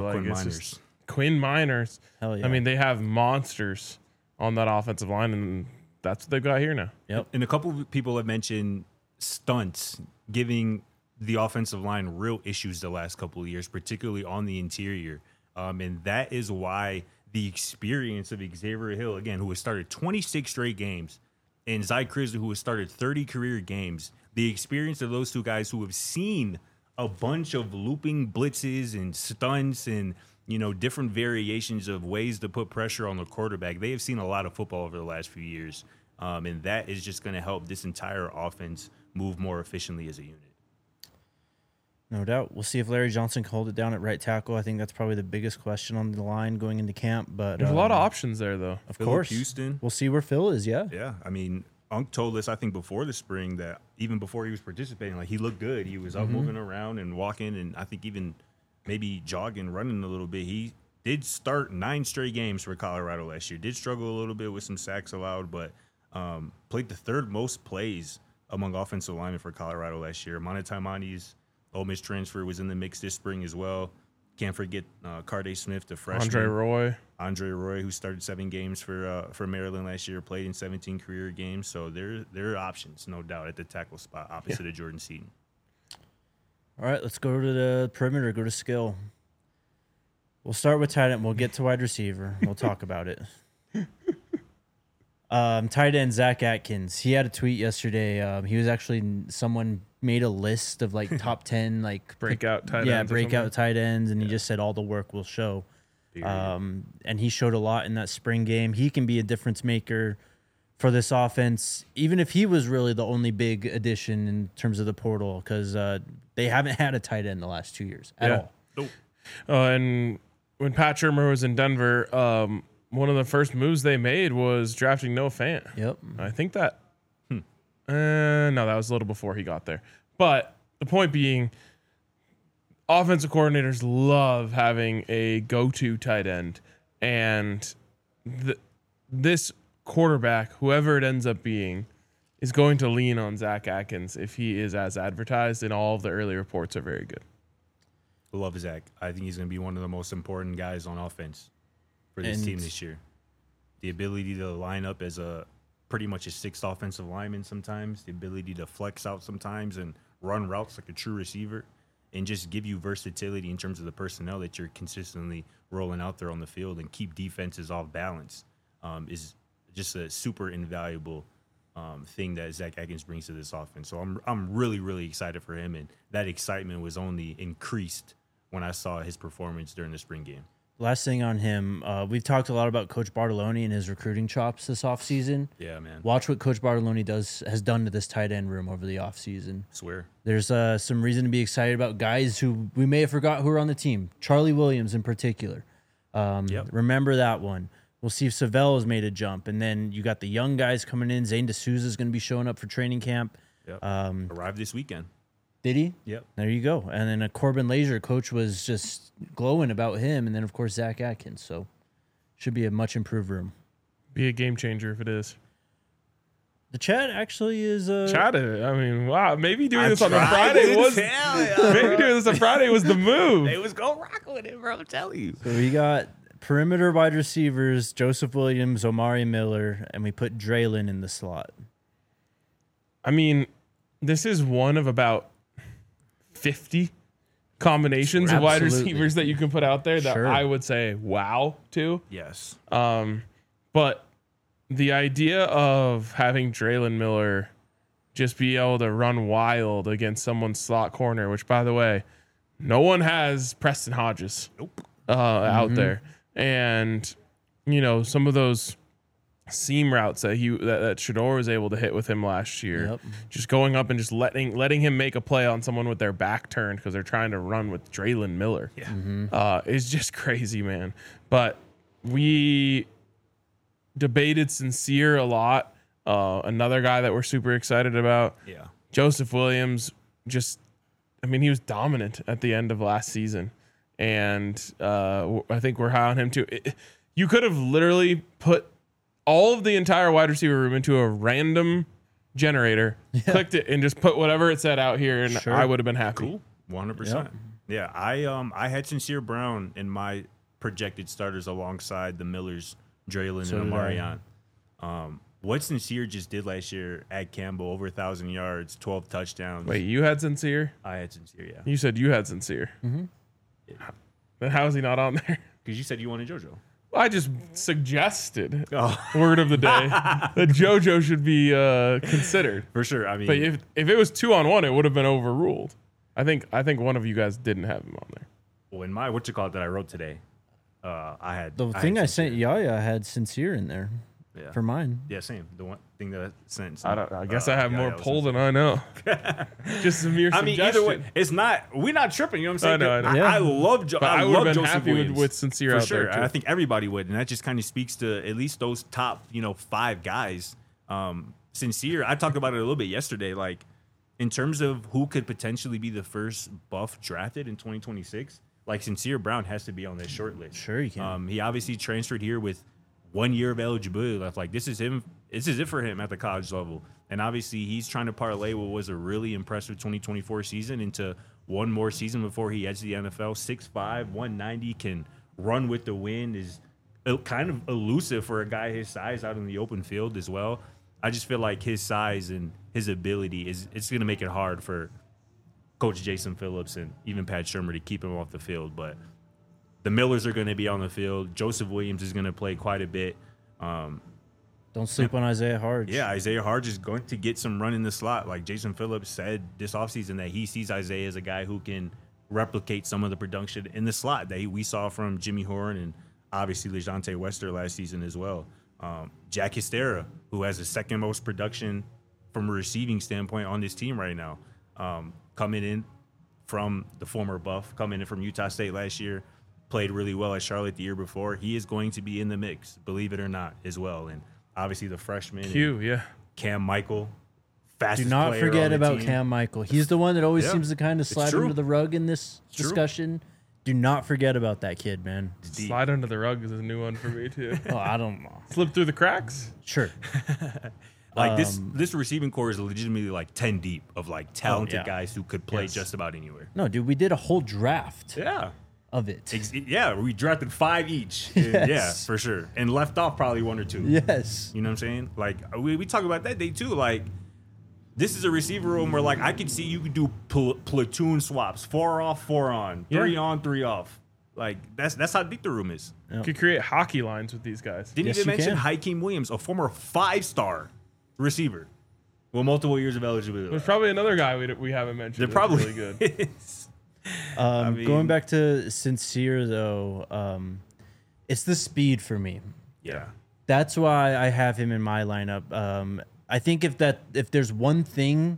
Quinn Miners. Hell yeah. I mean, they have monsters on that offensive line, and that's what they've got here now. Yep. And a couple of people have mentioned stunts giving the offensive line real issues the last couple of years, particularly on the interior. And that is why the experience of Xavier Hill, again, who has started 26 straight games, and Zy Crisley, who has started 30 career games, the experience of those two guys who have seen a bunch of looping blitzes and stunts and, you know, different variations of ways to put pressure on the quarterback. They have seen a lot of football over the last few years, and that is just going to help this entire offense move more efficiently as a unit. No doubt. We'll see if Larry Johnson can hold it down at right tackle. I think that's probably the biggest question on the line going into camp. But there's a lot of options there, though. Of Phillip course. Houston. We'll see where Phil is, yeah. Yeah, I mean, Unk told us, I think, before the spring that even before he was participating, like, he looked good. He was out moving around and walking, and I think even maybe jogging, running a little bit. He did start 9 straight games for Colorado last year. Did struggle a little bit with some sacks allowed, but played the third most plays among offensive linemen for Colorado last year. Mana Taimani's Ole Miss transfer was in the mix this spring as well. Can't forget Carday Smith, the freshman. Andre Roy, who started 7 games for Maryland last year, played in 17 career games. So there are options, no doubt, at the tackle spot opposite of Jordan Seaton. All right, let's go to the perimeter, go to skill. We'll start with tight end. We'll get to wide receiver. We'll talk about it. Tight end Zach Atkins. He had a tweet yesterday. He was actually someone made a list of like top 10 like Breakout tight ends. Yeah, or breakout something. tight ends, and he just said all the work will show. And he showed a lot in that spring game. He can be a difference maker for this offense, even if he was really the only big addition in terms of the portal, because they haven't had a tight end the last 2 years at all. Nope. And when Pat Shurmur was in Denver, one of the first moves they made was drafting Noah Fant. Yep. I think that. No, that was a little before he got there. But the point being, offensive coordinators love having a go-to tight end, and this quarterback, whoever it ends up being, is going to lean on Zach Atkins if he is as advertised, and all of the early reports are very good. Love Zach. I think he's going to be one of the most important guys on offense for this team this year. The ability to line up as pretty much a sixth offensive lineman sometimes, the ability to flex out sometimes and run routes like a true receiver, and just give you versatility in terms of the personnel that you're consistently rolling out there on the field and keep defenses off balance is just a super invaluable thing that Zach Atkins brings to this offense. So I'm really, really excited for him, and that excitement was only increased when I saw his performance during the spring game. Last thing on him, we've talked a lot about Coach Bartoloni and his recruiting chops this offseason. Yeah, man. Watch what Coach Bartoloni has done to this tight end room over the offseason. Swear. There's some reason to be excited about guys who we may have forgot who are on the team. Charlie Williams in particular. Remember that one. We'll see if Savell has made a jump. And then you got the young guys coming in. Zane D'Souza is going to be showing up for training camp. Yep. Arrived this weekend. Did he? Yep. There you go. And then a Corbin Lazier, coach was just glowing about him. And then, of course, Zach Atkins. So should be a much improved room. Be a game changer if it is. The chat actually is... Chat it. I mean, wow. Maybe doing this on a Friday was... Maybe doing this on Friday was the move. They was go rock with it, bro. I'm telling you. So we got perimeter wide receivers, Joseph Williams, Omari Miller, and we put Draylon in the slot. I mean, this is one of about 50 combinations of wide Absolutely. receivers that you can put out there that Sure. I would say wow to. Yes. But the idea of having Draylon Miller just be able to run wild against someone's slot corner, which, by the way, no one has Preston Hodges out there. And, you know, some of those seam routes that Shador was able to hit with him last year, Yep. just going up and just letting him make a play on someone with their back turned because they're trying to run with Draylon Miller. Yeah. Is just crazy, man. But we debated Sincere a lot. Another guy that we're super excited about. Yeah. Joseph Williams, he was dominant at the end of last season. And I think we're high on him too. You could have literally put all of the entire wide receiver room into a random generator, clicked it, and just put whatever it said out here, and Sure. I would have been happy. Cool. 100%. Yeah. I had Sincere Brown in my projected starters alongside the Millers, Draylon, So and did I. Omarion. What Sincere just did last year at Campbell, over 1,000 yards, 12 touchdowns. Wait, you had Sincere? I had Sincere, yeah. You said you had Sincere. Then how is he not on there? Because you said you wanted JoJo. I just suggested, Oh, word of the day, that JoJo should be considered. for sure. I mean, But if it was 2-on-1, it would have been overruled. I think one of you guys didn't have him on there. well, in my that I wrote today, I had The I thing had I sent Sincere. Yaya had Sincere in there Yeah. for mine. Yeah, same. The one thing that I sent. I guess I have more yeah, pull than I know. Just a mere I mean, suggestion. either way, it's not. We're not tripping. You know what I'm saying? I know. Yeah. I love. But I I would love have been Joseph happy Williams, with Sincere for out sure. there, too. I think everybody would, and that just kind of speaks to at least those top, 5 guys. Sincere. I talked about it a little bit yesterday. Like in terms of who could potentially be the first buff drafted in 2026, like Sincere Brown has to be on this short list. Sure, you can. He obviously transferred here with 1 year of eligibility left. Like this is him. This is it for him at the college level. And obviously he's trying to parlay what was a really impressive 2024 season into one more season before he heads to the NFL. 6'5", 190, can run with the wind, is kind of elusive for a guy his size out in the open field as well. I just feel like his size and his ability it's going to make it hard for Coach Jason Phillips and even Pat Shurmur to keep him off the field. But the Millers are going to be on the field. Joseph Williams is going to play quite a bit. Don't sleep on Isaiah Harge. Yeah, Isaiah Harge is going to get some run in the slot. Like Jason Phillips said this offseason that he sees Isaiah as a guy who can replicate some of the production in the slot that we saw from Jimmy Horn and obviously LeJontay Wester last season as well. Jack Histera, who has the second most production from a receiving standpoint on this team right now, coming in from the former Buff, coming in from Utah State last year, played really well at Charlotte the year before. He is going to be in the mix, believe it or not, as well. And obviously the freshman, yeah. Cam Michael, Do fastest not player forget on the about team. Cam Michael. He's the one that always Yeah, seems to kind of slide true. under the rug in this true. discussion. Do not forget about that kid, man. Deep. Slide under the rug is a new one for me too. Oh, I don't know. Slip through the cracks. Sure. Like this receiving core is legitimately like 10 deep of like talented yeah. guys who could play Yes. just about anywhere. No, dude, we did a whole draft Yeah. of it. Yeah, we drafted 5 each. Yeah, Yes. for sure. And left off probably 1 or 2. Yes. You know what I'm saying? Like we talk about that day too. Like this is a receiver room where like I could see you could do platoon swaps, 4 off, 4 on, 3 on, 3 off. Like that's how deep the room is. Could create hockey lines with these guys. Didn't Yes, even you mention can. Hakeem Williams, a former 5-star receiver with multiple years of eligibility. There's probably another guy we haven't mentioned. They're that's probably really good. is. Going mean- back to Sincere, though, it's the speed for me. Yeah. That's why I have him in my lineup. I think if there's one thing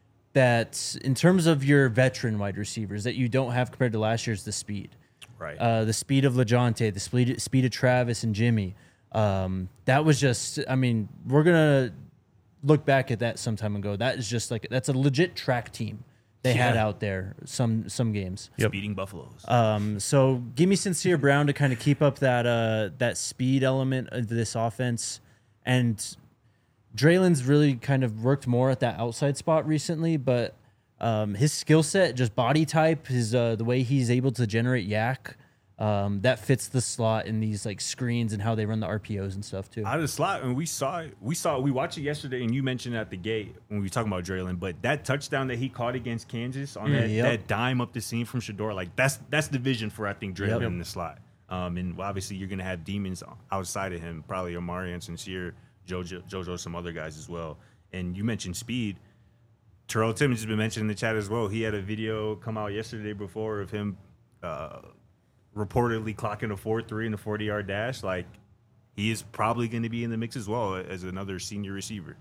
that, in terms of your veteran wide receivers, that you don't have compared to last year is the speed. Right. The speed of LeJontay, the speed of Travis and Jimmy. That was just, I mean, we're going to look back at that some time ago. That is just like, that's a legit track team they had out there some games. Speeding Buffaloes. So give me Sincere Brown to kind of keep up that speed element of this offense. And Draylen's really kind of worked more at that outside spot recently, but his skill set, just body type, his the way he's able to generate yak, that fits the slot in these like screens and how they run the RPOs and stuff too. Out of the slot, and we watched it yesterday, and you mentioned at the gate when we were talking about Draylen, but that touchdown that he caught against Kansas on that dime up the seam from Shador, like that's the vision for I think Draylen in the slot. And obviously you're gonna have demons outside of him, probably Amari and Sincere, JoJo, some other guys as well. And you mentioned speed. Terrell Timmons has been mentioned in the chat as well. He had a video come out yesterday before of him reportedly clocking a 4.3 in a 40-yard dash. Like, he is probably going to be in the mix as well as another senior receiver.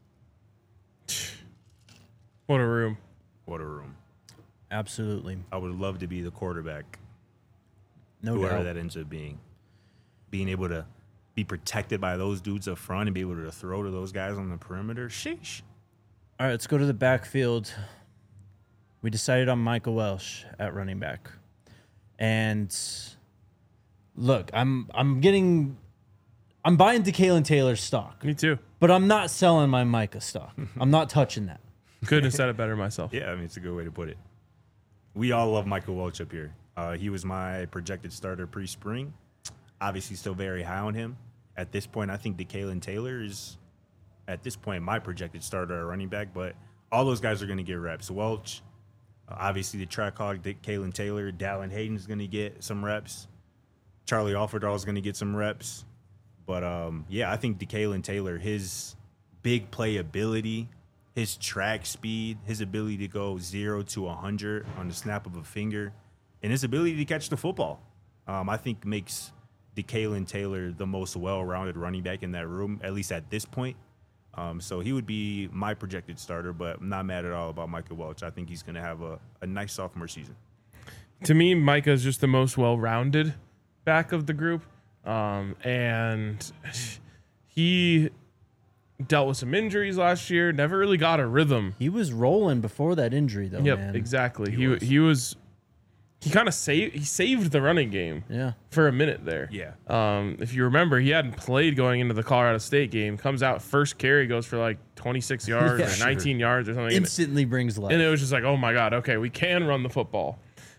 What a room. What a room. Absolutely. I would love to be the quarterback, No whoever doubt. that ends up being. Being able to be protected by those dudes up front and be able to throw to those guys on the perimeter. Sheesh. All right, let's go to the backfield. We decided on Michael Welsh at running back. And look, I'm buying DeKalen Taylor's stock, Me too. but I'm not selling my Micah stock. I'm not touching that. Couldn't have said it better myself. Yeah, I mean, it's a good way to put it. We all love Michael Welch up here. He was my projected starter pre-spring. Obviously, still very high on him. At this point, I think DeKalen Taylor is, at this point, my projected starter at running back. But all those guys are going to get reps. Welch, obviously the track hog, DeKalen Taylor. Dallin Hayden's going to get some reps. Charlie Alfredall is going to get some reps. But, yeah, I think DeKalen Taylor, his big playability, his track speed, his ability to go 0 to 100 on the snap of a finger, and his ability to catch the football, I think makes DeKalen Taylor the most well-rounded running back in that room, at least at this point. So he would be my projected starter, but I'm not mad at all about Michael Welch. I think he's going to have a nice sophomore season. To me, Micah's just the most well-rounded back of the group. And he dealt with some injuries last year, never really got a rhythm. He was rolling before that injury, though, Yep, man. exactly. He kind of saved the running game Yeah. for a minute there. Yeah. If you remember, he hadn't played going into the Colorado State game. Comes out, first carry goes for like 26 yards Yeah, or 19 yards or something. Instantly brings life. And it was just like, oh my God, okay, we can run the football.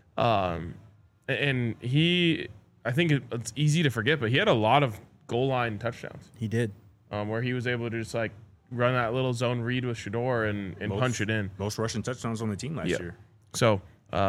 And he, I think it's easy to forget, but he had a lot of goal line touchdowns He did. where he was able to just like run that little zone read with Shador and punch it in. Most rushing touchdowns on the team last year. So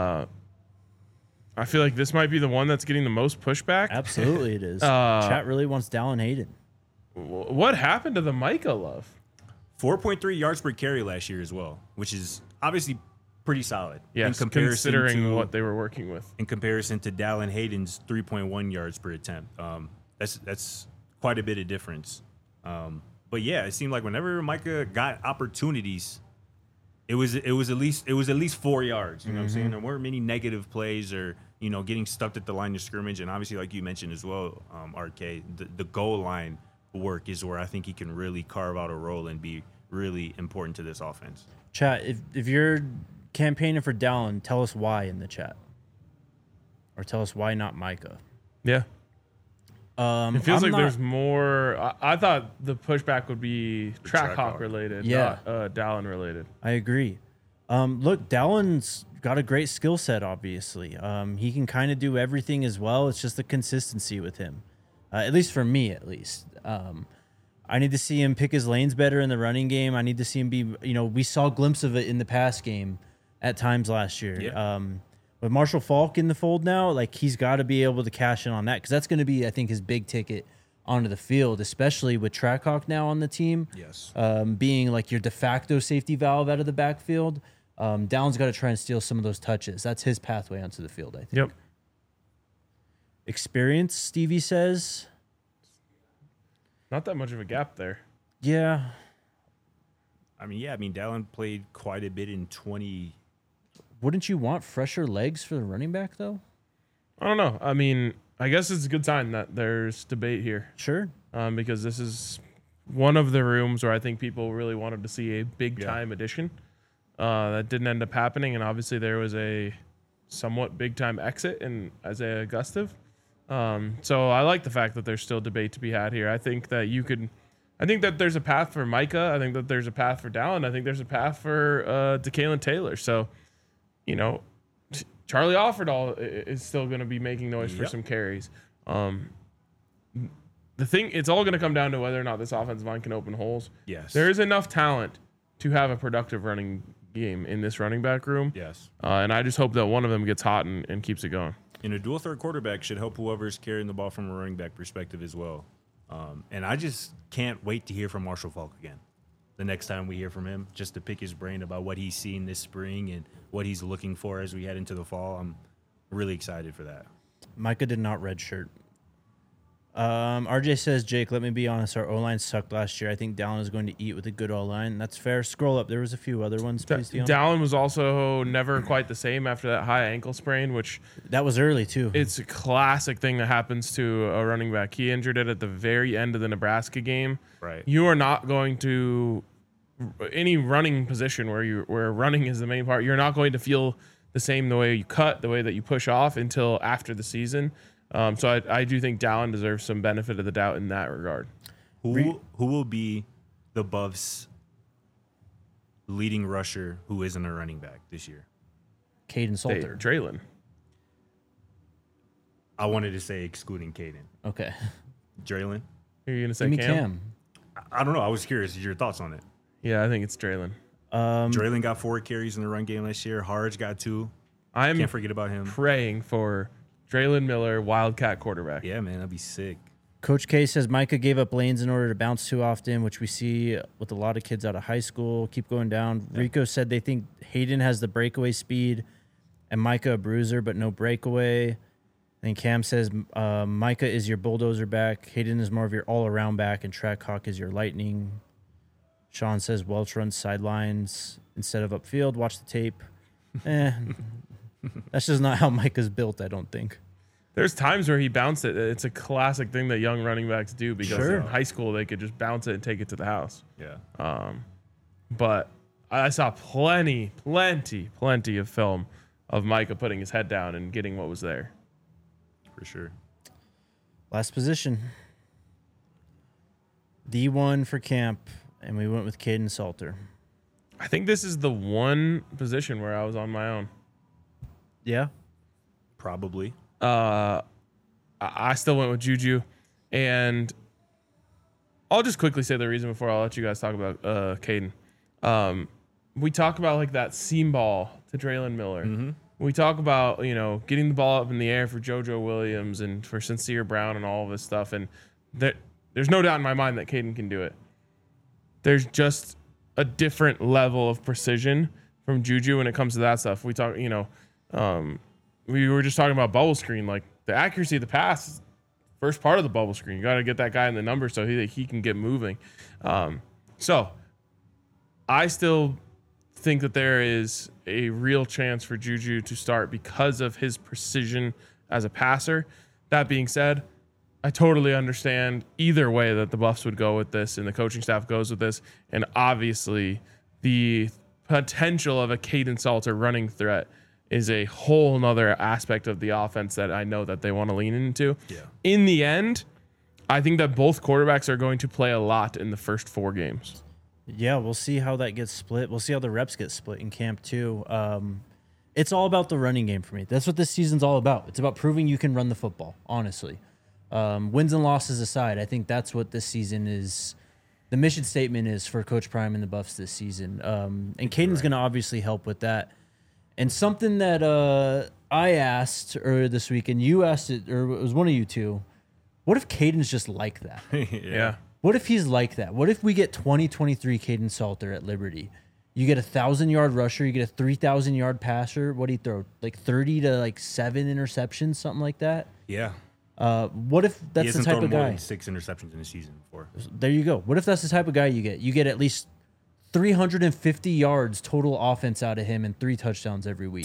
I feel like this might be the one that's getting the most pushback. Absolutely, it is. Uh, Chat really wants Dallin Hayden. What happened to the Micah love? 4.3 yards per carry last year as well, which is obviously pretty solid. Yes, considering what they were working with. In comparison to Dallin Hayden's 3.1 yards per attempt. That's quite a bit of difference. But yeah, it seemed like whenever Micah got opportunities, it was at least 4 yards. You know what I'm saying? There weren't many negative plays or getting stuck at the line of scrimmage. And obviously, like you mentioned as well, RK, the goal line work is where I think he can really carve out a role and be really important to this offense. Chat, if you're campaigning for Dallin, tell us why in the chat, or tell us why not Micah. Yeah. It feels I'm like there's more. I thought the pushback would be Trackhawk related, not Dallin related. I agree. Look, Dallin's got a great skill set, obviously. He can kind of do everything as well. It's just the consistency with him, at least for me, at least. I need to see him pick his lanes better in the running game. I need to see him be, we saw a glimpse of it in the pass game at times last year. Yeah. With Marshall Faulk in the fold now, like he's got to be able to cash in on that because that's going to be, I think, his big ticket onto the field, especially with Trackhawk now on the team. Yes. Being like your de facto safety valve out of the backfield. Dallin's got to try and steal some of those touches. That's his pathway onto the field, I think. Yep. Experience, Stevie says. Not that much of a gap there. Yeah. Dallin played quite a bit in 20. Wouldn't you want fresher legs for the running back, though? I don't know. I mean, I guess it's a good sign that there's debate here. Sure. Because this is one of the rooms where I think people really wanted to see a big-time addition. That didn't end up happening, and obviously there was a somewhat big-time exit in Isaiah Gustave. So I like the fact that there's still debate to be had here. I think that there's a path for Micah. I think that there's a path for Dallin. I think there's a path for DeKalen Taylor. So, Charlie Offerdahl is still going to be making noise for some carries. It's all going to come down to whether or not this offensive line can open holes. Yes. There is enough talent to have a productive running game in this running back room. Yes. And I just hope that one of them gets hot and keeps it going. And a dual threat quarterback should help whoever's carrying the ball from a running back perspective as well. And I just can't wait to hear from Marshall Faulk again. The next time we hear from him, just to pick his brain about what he's seen this spring and what he's looking for as we head into the fall. I'm really excited for that. Micah did not redshirt. RJ says, Jake, let me be honest. Our O-line sucked last year. I think Dallin is going to eat with a good O-line. That's fair. Scroll up. There was a few other ones. Please, Dion. Dallin was also never quite the same after that high ankle sprain, which that was early too. It's a classic thing that happens to a running back. He injured it at the very end of the Nebraska game. Right. You are not going to any running position where running is the main part. You're not going to feel the same the way you cut, the way that you push off until after the season. So I do think Dallin deserves some benefit of the doubt in that regard. Who will be the Buffs' leading rusher who isn't a running back this year? Caden Salter. Draylon. I wanted to say excluding Caden. Okay. Draylon? Are you going to say Give me Cam? I don't know. I was curious. Your thoughts on it? Yeah, I think it's Draylon. Draylon got 4 carries in the run game last year. Harge got 2. Can't forget about him. Praying for Draylon Miller, Wildcat quarterback. Yeah, man, that'd be sick. Coach K says Micah gave up lanes in order to bounce too often, which we see with a lot of kids out of high school. Keep going down. Yeah. Rico said they think Hayden has the breakaway speed and Micah a bruiser, but no breakaway. And Cam says Micah is your bulldozer back. Hayden is more of your all-around back, and Trackhawk is your lightning. Sean says Welch runs sidelines instead of upfield. Watch the tape. That's just not how Micah's built, I don't think. There's times where he bounced it. It's a classic thing that young running backs do because in high school they could just bounce it and take it to the house. Yeah. But I saw plenty of film of Micah putting his head down and getting what was there. For sure. Last position. D1 for camp, and we went with Caden Salter. I think this is the one position where I was on my own. Yeah. Probably. I still went with Juju, and I'll just quickly say the reason before I'll let you guys talk about Caden. We talk about like that seam ball to Draylon Miller. Mm-hmm. We talk about getting the ball up in the air for JoJo Williams and for Sincere Brown and all of this stuff, and There's no doubt in my mind that Caden can do it. There's just a different level of precision from Juju when it comes to that stuff. We talk, we were just talking about bubble screen, like the accuracy of the pass is first part of the bubble screen. You got to get that guy in the number so he can get moving. So I still think that there is a real chance for Juju to start because of his precision as a passer. That being said, I totally understand either way that the Buffs would go with this and the coaching staff goes with this. And obviously the potential of a Caden Salter running threat is a whole nother aspect of the offense that I know that they want to lean into. Yeah. In the end, I think that both quarterbacks are going to play a lot in the first 4 games. Yeah, we'll see how that gets split. We'll see how the reps get split in camp too. It's all about the running game for me. That's what this season's all about. It's about proving you can run the football, honestly. Wins and losses aside, I think that's what this season is. The mission statement is for Coach Prime and the Buffs this season. And Caden's going to obviously help with that. And something that I asked earlier this week, and you asked it, or it was one of you two, what if Caden's just like that? Yeah. What if he's like that? What if we get 2023 Caden Salter at Liberty? You get a 1,000-yard rusher, you get a 3,000-yard passer. What do you throw? Like 30 to 7 interceptions, something like that? Yeah. What if that's the type of more guy? than 6 interceptions in a season before. There you go. What if that's the type of guy you get? You get at least 350 yards total offense out of him and 3 touchdowns every week.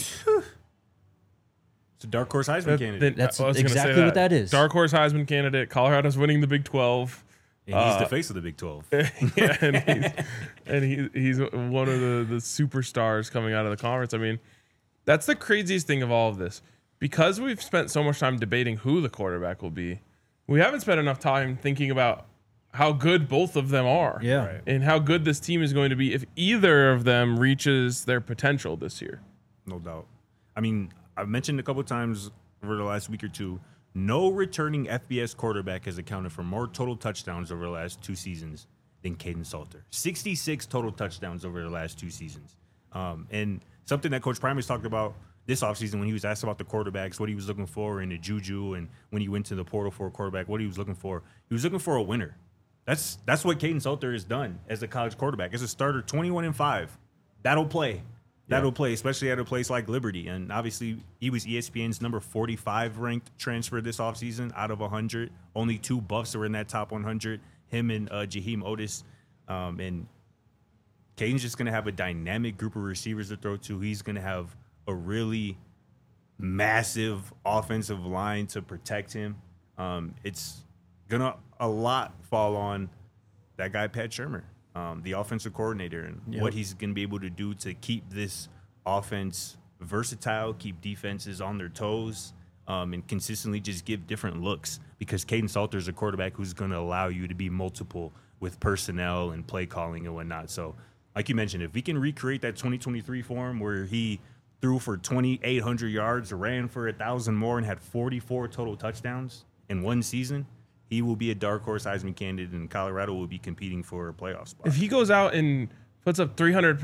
It's a dark horse Heisman candidate. That's I was gonna say exactly what that is. Dark horse Heisman candidate. Colorado's winning the Big 12. And he's the face of the Big 12. Yeah, and he's one of the superstars coming out of the conference. I mean, that's the craziest thing of all of this. Because we've spent so much time debating who the quarterback will be, we haven't spent enough time thinking about how good both of them are. Yeah. Right. And how good this team is going to be if either of them reaches their potential this year. No doubt. I mean, I've mentioned a couple of times over the last week or two, no returning FBS quarterback has accounted for more total touchdowns over the last 2 seasons than Caden Salter. 66 total touchdowns over the last 2 seasons. And something that Coach Prime has talked about this offseason when he was asked about the quarterbacks, what he was looking for in the Juju, and when he went to the portal for a quarterback, what he was looking for. He was looking for a winner. That's what Caden Salter has done as a college quarterback. As a starter, 21-5. That'll play. That'll play, especially at a place like Liberty. And obviously, he was ESPN's number 45 ranked transfer this offseason out of 100. Only 2 Buffs were in that top 100, him and Jaheim Otis. And Caden's just going to have a dynamic group of receivers to throw to. He's going to have a really massive offensive line to protect him. It's going to a lot fall on that guy, Pat Shurmur. The offensive coordinator, and what he's going to be able to do to keep this offense versatile, keep defenses on their toes, and consistently just give different looks, because Caden Salter is a quarterback who's going to allow you to be multiple with personnel and play calling and whatnot. So, like you mentioned, if we can recreate that 2023 form where he threw for 2,800 yards, ran for 1,000 more, and had 44 total touchdowns in one season, he will be a dark horse Heisman candidate, and Colorado will be competing for a playoff spot. If he goes out and puts up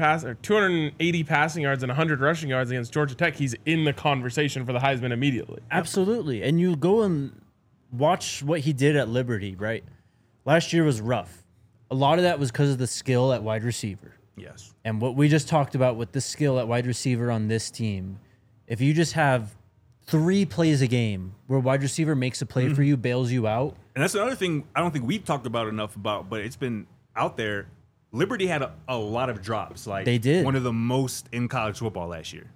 280 passing yards and 100 rushing yards against Georgia Tech, he's in the conversation for the Heisman immediately. Absolutely. And you go and watch what he did at Liberty, right? Last year was rough. A lot of that was because of the skill at wide receiver. Yes. And what we just talked about with the skill at wide receiver on this team, if you just have 3 plays a game where wide receiver makes a play for you, bails you out. And that's another thing I don't think we've talked about enough about, but it's been out there. Liberty had a lot of drops. Like, they did. One of the most in college football last year.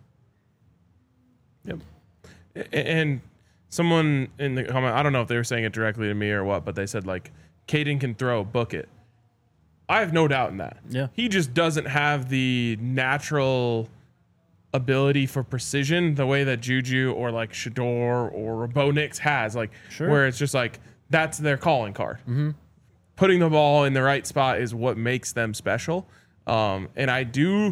Yep. And someone in the comment, I don't know if they were saying it directly to me or what, but they said, like, Caden can throw, book it. I have no doubt in that. Yeah. He just doesn't have the natural ability for precision the way that Juju or like Shador or Bo Nix has, like, where it's just like that's their calling card. Mm-hmm. Putting the ball in the right spot is what makes them special. And I do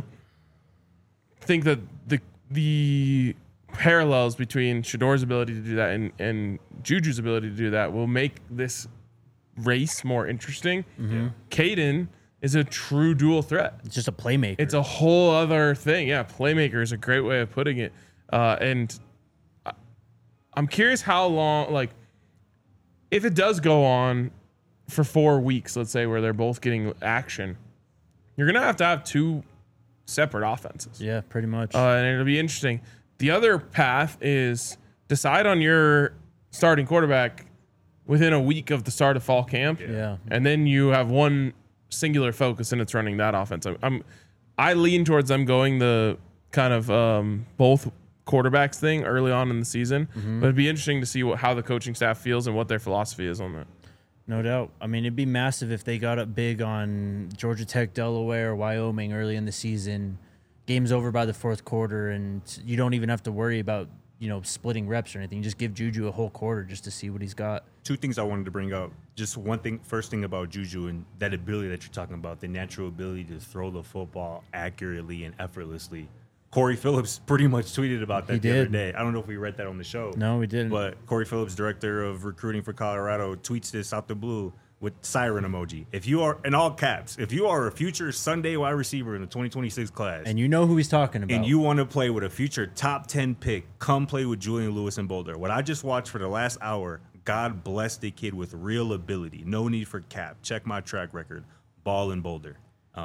think that the parallels between Shador's ability to do that and Juju's ability to do that will make this race more interesting. Mm-hmm. Caden is a true dual threat. It's just a playmaker. It's a whole other thing. Yeah, playmaker is a great way of putting it. And I'm curious how long, like, if it does go on for 4 weeks, let's say, where they're both getting action, you're going to have 2 separate offenses. Yeah, pretty much. And it'll be interesting. The other path is decide on your starting quarterback within a week of the start of fall camp. Yeah. And then you have one singular focus, and it's running that offense. I lean towards them going the kind of both quarterbacks thing early on in the season. But it'd be interesting to see how the coaching staff feels and what their philosophy is on that. No doubt. I mean, it'd be massive if they got up big on Georgia Tech, Delaware, Wyoming early in the season. Game's over by the fourth quarter, and you don't even have to worry about, splitting reps or anything. You just give Juju a whole quarter just to see what he's got. 2 things I wanted to bring up. Just one thing, first thing about Juju and that ability that you're talking about, the natural ability to throw the football accurately and effortlessly. Corey Phillips pretty much tweeted about that the other day. I don't know if we read that on the show. No, we didn't. But Corey Phillips, director of recruiting for Colorado, tweets this out the blue with siren emoji. If you are, in all caps, if you are a future Sunday wide receiver in the 2026 class, and you know who he's talking about, and you want to play with a future top 10 pick, come play with Julian Lewis in Boulder. What I just watched for the last hour, God bless the kid with real ability. No need for cap. Check my track record. Ball in Boulder.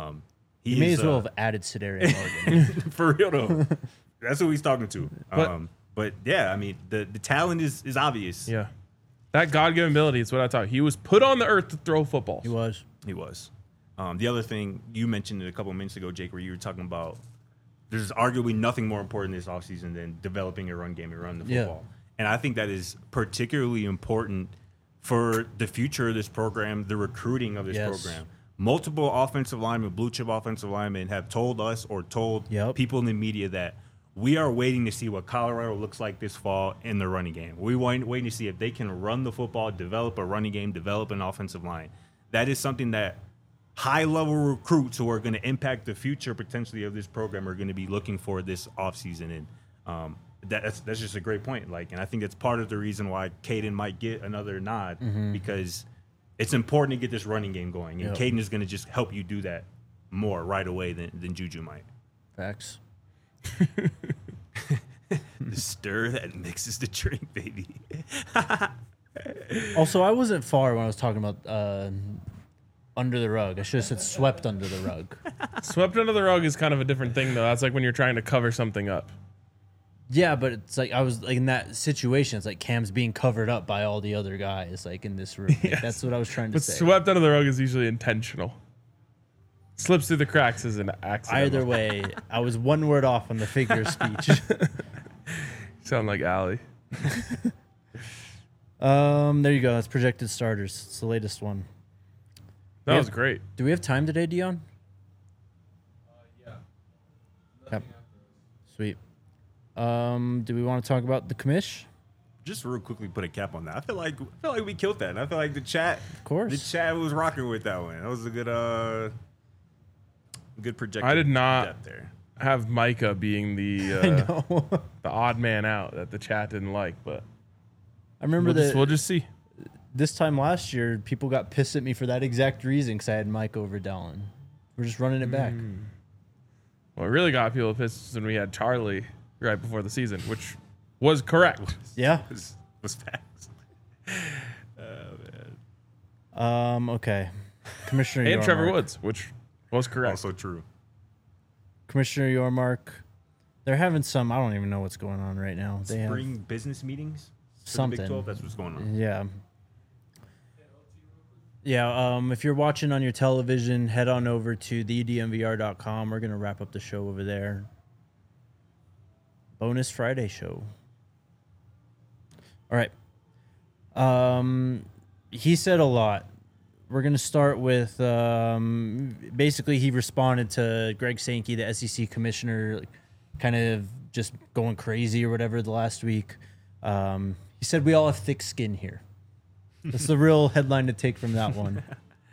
He may as well have added Sedarian Morgan. For real though. That's who he's talking to. But yeah, I mean the talent is obvious. Yeah. That God-given ability is what I thought. He was put on the earth to throw footballs. He was. The other thing, you mentioned it a couple of minutes ago, Jake, where you were talking about there's arguably nothing more important this offseason than developing a run game and running the football. And I think that is particularly important for the future of this program, the recruiting of this program. Multiple offensive linemen, blue chip offensive linemen have told us or told people in the media that we are waiting to see what Colorado looks like this fall in the running game. We're waiting to see if they can run the football, develop a running game, develop an offensive line. That is something that high-level recruits who are going to impact the future potentially of this program are going to be looking for this offseason. And that's just a great point. And I think that's part of the reason why Caden might get another nod because it's important to get this running game going. And Caden is going to just help you do that more right away than Juju might. Facts. The stir that mixes the drink, baby. Also, I wasn't far when I was talking about under the rug. I should have said swept under the rug. Swept under the rug is kind of a different thing, though. That's like when you're trying to cover something up. Yeah, but it's like I was like in that situation. It's like Cam's being covered up by all the other guys, like in this room. Like, that's what I was trying to say. But swept under the rug is usually intentional. Slips through the cracks is an accident. Either way, I was one word off on the figure of speech. Sound like Allie. There you go. That's projected starters. It's the latest one. That was great. Do we have time today, Dion? Yeah. Yep. Sweet. Do we want to talk about the commish? Just real quickly put a cap on that. I feel like we killed that. And I feel like the chat was rocking with that one. That was a good projected. I did not depth there. have Micah being the I know. the odd man out that the chat didn't like, but I remember we'll just see. This time last year, people got pissed at me for that exact reason because I had Mike over Dallin. We're just running it back. Well, it really got people pissed when we had Charlie right before the season, which was correct. Yeah. Was fast. Okay. Commissioner And Yormark. Trevor Woods, which was correct. Also true. Commissioner Yormark. They're having some, I don't even know what's going on right now. They Spring business meetings? For something. the Big 12, that's what's going on. Yeah. Yeah, if you're watching on your television, head on over to thedmvr.com. We're going to wrap up the show over there. Bonus Friday show. All right. He said a lot. We're going to start with basically he responded to Greg Sankey, the SEC commissioner, kind of just going crazy or whatever the last week. He said, we all have thick skin here. That's the real headline to take from that one.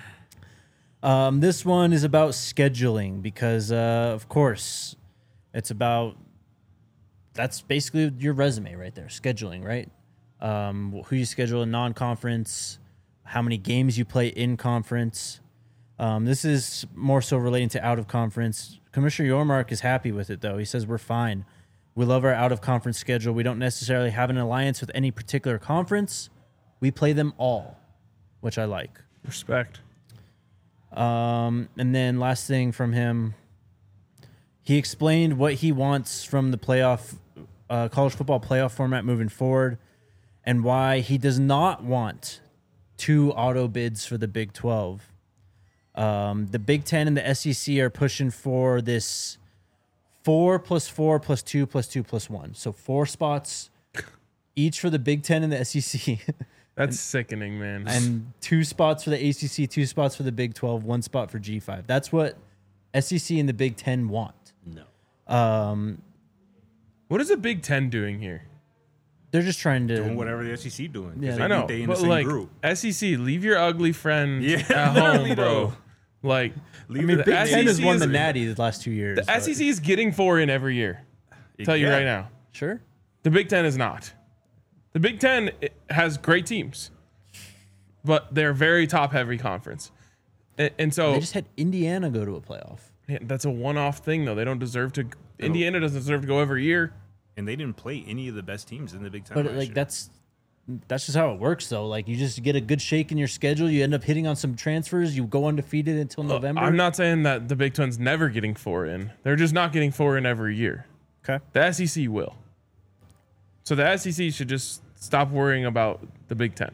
This one is about scheduling because, of course, it's about that's basically your resume right there, scheduling, right? Who you schedule in non-conference, how many games you play in conference. This is more so relating to out-of-conference. Commissioner Yormark is happy with it, though. He says, we're fine. We love our out-of-conference schedule. We don't necessarily have an alliance with any particular conference. We play them all, which I like. Respect. And then last thing from him, he explained what he wants from the college football playoff format moving forward, and why he does not want 2 auto bids for the Big 12. The Big 10 and the SEC are pushing for this 4 + 4 + 2 + 2 + 1. So 4 spots each for the Big 10 and the SEC. That's sickening, man. And 2 spots for the ACC, 2 spots for the Big 12, 1 spot for G5. That's what SEC and the Big 10 want. No. What is the Big 10 doing here? They're just trying to Doing whatever the SEC doing. 'Cause Yeah. they I know, think they in the but same like group. SEC, leave your ugly friend Yeah, at literally, home, bro. though. Like, Leave I mean, the Big SEC 10 has won the is- Natty the last 2 years. the SEC is getting 4 in every year. Tell you Yeah. right now. Sure. The Big 10 is not. The Big 10 has great teams, but they're a very top-heavy conference. And so They just had Indiana go to a playoff. yeah, that's a one-off thing, though. They don't deserve to. Indiana doesn't deserve to go every year. And they didn't play any of the best teams in the Big Ten. But last like year. that's just how it works though. Like you just get a good shake in your schedule, you end up hitting on some transfers, you go undefeated until November. I'm not saying that the Big 10's never getting 4 in. They're just not getting 4 in every year. Okay. The SEC will. So the SEC should just stop worrying about the Big 10.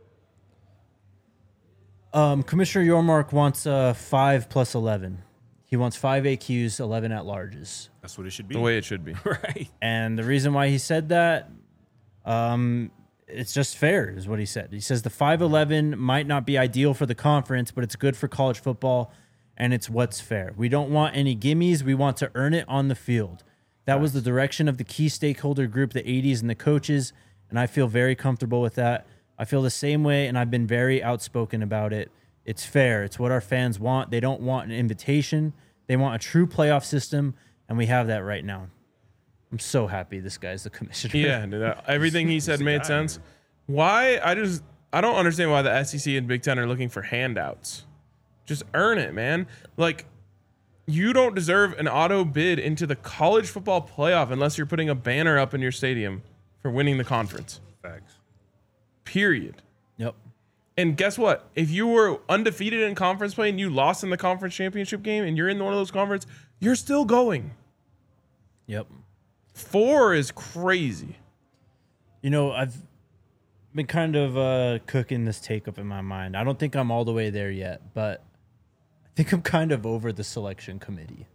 Commissioner Yormark wants 5 + 11. He wants 5 AQs, 11 at larges. That's what it should be. The way it should be. Right. And the reason why he said that, it's just fair, is what he said. He says the 5-11 might not be ideal for the conference, but it's good for college football, and it's what's fair. We don't want any gimmies. We want to earn it on the field. That was the direction of the key stakeholder group, the 80s and the coaches, and I feel very comfortable with that. I feel the same way, and I've been very outspoken about it. It's fair. It's what our fans want. They don't want an invitation. They want a true playoff system, and we have that right now. I'm so happy this guy's the commissioner. Yeah, dude, everything he said made sense. Why? I don't understand why the SEC and Big 10 are looking for handouts. Just earn it, man. Like, you don't deserve an auto bid into the college football playoff unless you're putting a banner up in your stadium for winning the conference. Facts. Period. Yep. And guess what? If you were undefeated in conference play and you lost in the conference championship game and you're in one of those conferences, you're still going. Yep. 4 is crazy. You know, I've been kind of cooking this take up in my mind. I don't think I'm all the way there yet, but I think I'm kind of over the selection committee.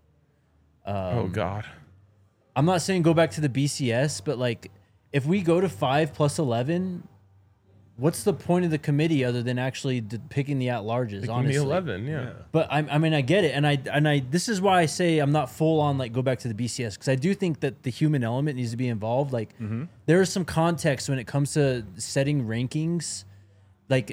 Oh, God. I'm not saying go back to the BCS, but like if we go to 5 + 11, what's the point of the committee other than actually picking the at-larges, Give me honestly? 11, yeah. But I mean, I get it, and I this is why I say I'm not full on like go back to the BCS, because I do think that the human element needs to be involved. Like there is some context when it comes to setting rankings, like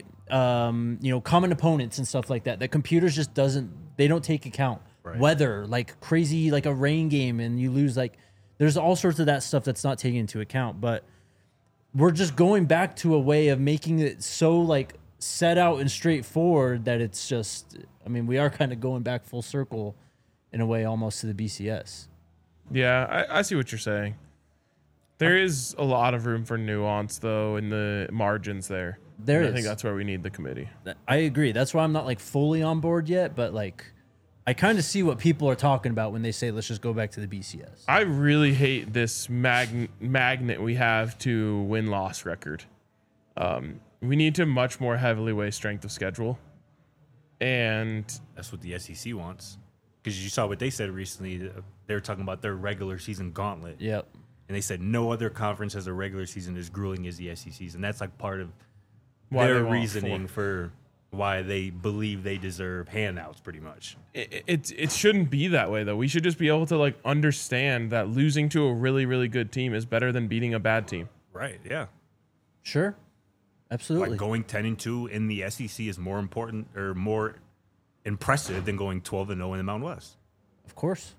common opponents and stuff like that. That computers just they don't take account. Right. Weather, like crazy, like a rain game, and you lose. Like there's all sorts of that stuff that's not taken into account, but. We're just going back to a way of making it so like set out and straightforward that it's just, I mean, we are kind of going back full circle in a way almost to the BCS. Yeah, I see what you're saying. There is a lot of room for nuance, though, in the margins there. There And is. I think that's where we need the committee. I agree. That's why I'm not like fully on board yet, but like I kind of see what people are talking about when they say, let's just go back to the BCS. I really hate this magnet we have to win-loss record. We need to much more heavily weigh strength of schedule. And That's what the SEC wants. Because you saw what they said recently. They were talking about their regular season gauntlet. Yep. And they said no other conference has a regular season as grueling as the SEC's. And that's like part of why their they want reasoning for why they believe they deserve handouts, pretty much. it shouldn't be that way, though. We should just be able to like understand that losing to a really, really good team is better than beating a bad team. Right, yeah. Sure. Absolutely. Like going 10-2 in the SEC is more important or more impressive than going 12-0 in the Mountain West. Of course.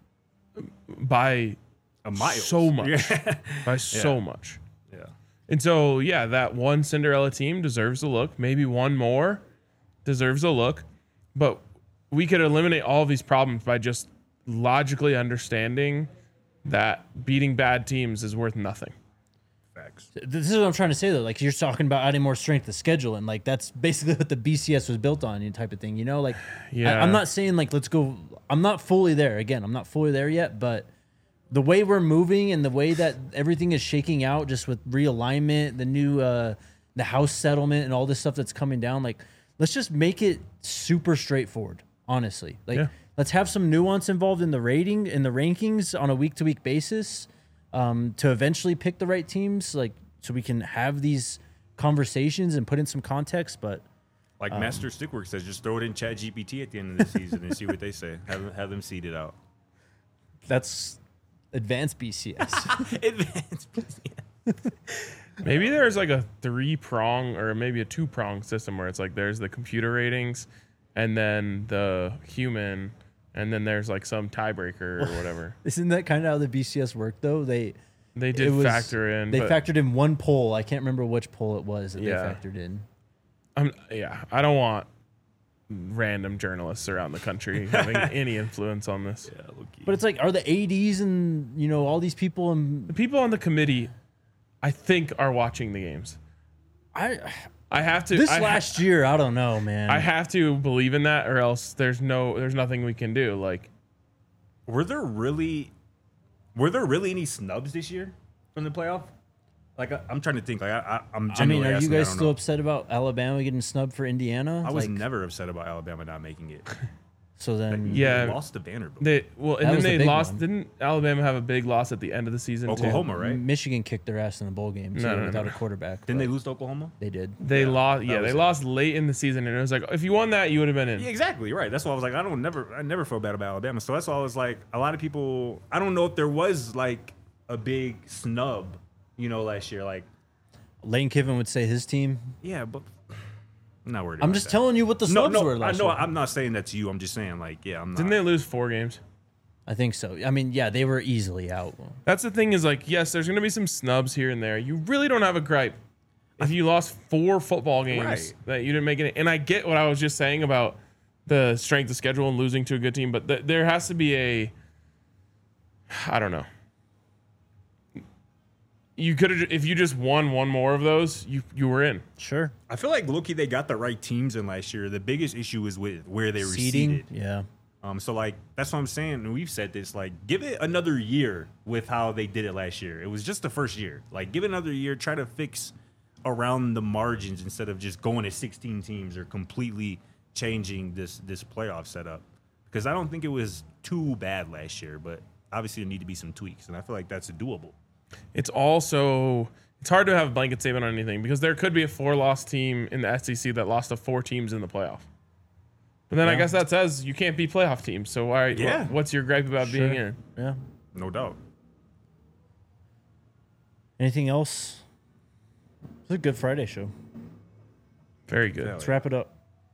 By A mile. so much. Yeah. By so much. Yeah. And so, yeah, that one Cinderella team deserves a look. Maybe one more deserves a look. But we could eliminate all of these problems by just logically understanding that beating bad teams is worth nothing. Facts. Facts. This is what I'm trying to say though. Like you're talking about adding more strength to schedule, and like that's basically what the BCS was built on, type of thing. Like Yeah. I'm not saying like let's go. I'm not fully there. Again, I'm not fully there yet, but the way we're moving and the way that everything is shaking out, just with realignment, the new the house settlement, and all this stuff that's coming down, like let's just make it super straightforward. Honestly, like let's have some nuance involved in the rankings on a week to week basis. To eventually pick the right teams, like so we can have these conversations and put in some context. But Like Master Stickwork says, just throw it in Chat GPT at the end of the season and see what they say. Have them seed it out. that's advanced BCS. Advanced. Maybe there's like a 3-prong or maybe a 2-prong system where it's like there's the computer ratings and then the human, and then there's like some tiebreaker or whatever. Isn't that kind of how the BCS worked though? They did factor in. They but factored in one poll. I can't remember which poll it was that Yeah. they factored in. I don't want random journalists around the country having any influence on this. Yeah, low-key. But it's like, are the ADs and all these people The people on the committee, I think, are watching the games. I have to. last year, I don't know, man. I have to believe in that, or else there's nothing we can do. Like, Were there really any snubs this year from the playoff? Like I'm trying to think. Like I'm. I mean, genuinely are you asking, guys I don't still know. upset about Alabama getting snubbed for Indiana? I was Like, never upset about Alabama not making it. So then, Yeah. They lost to Vanderbilt. and That then was the they big lost. one. Didn't Alabama have a big loss at the end of the season Oklahoma, right? Michigan kicked their ass in the bowl game too, No. without a quarterback. Didn't they but lose to Oklahoma? They did. too? They lost. Yeah, that they was it. lost late in the season, and it was like if you won that, you would have been in. Yeah, exactly. Right. That's why I was like, I never felt bad about Alabama. So that's why I was like, a lot of people. I don't know if there was like a big snub, last year. Like, Lane Kiffin would say his team. yeah, but I'm not worried. I'm about just that. telling you what the snubs were I last know. year. I'm not saying that to you. I'm just saying, like, yeah, I'm not. Didn't they lose 4 games? I think so. I mean, yeah, they were easily out. That's the thing is like, yes, there's going to be some snubs here and there. You really don't have a gripe if you lost 4 football games Right. that you didn't make it. And I get what I was just saying about the strength of schedule and losing to a good team, but there has to be I don't know. You could have, if you just won one more of those, you were in. Sure. I feel like Loki, they got the right teams in last year. The biggest issue is with where they were Seeding. seeded. Yeah. So like that's what I'm saying. And we've said this. Like, give it another year with how they did it last year. It was just the first year. Like, give it another year. Try to fix around the margins instead of just going to 16 teams or completely changing this playoff setup. Because I don't think it was too bad last year, but obviously there need to be some tweaks, and I feel like that's doable. It's also it's hard to have a blanket statement on anything because there could be a 4-loss team in the SEC that lost to 4 teams in the playoff. But then I guess that says you can't be playoff teams. So why? Yeah. What's your gripe about being in? Yeah. No doubt. Anything else? It's a good Friday show. Very good. Yeah. Let's wrap it up.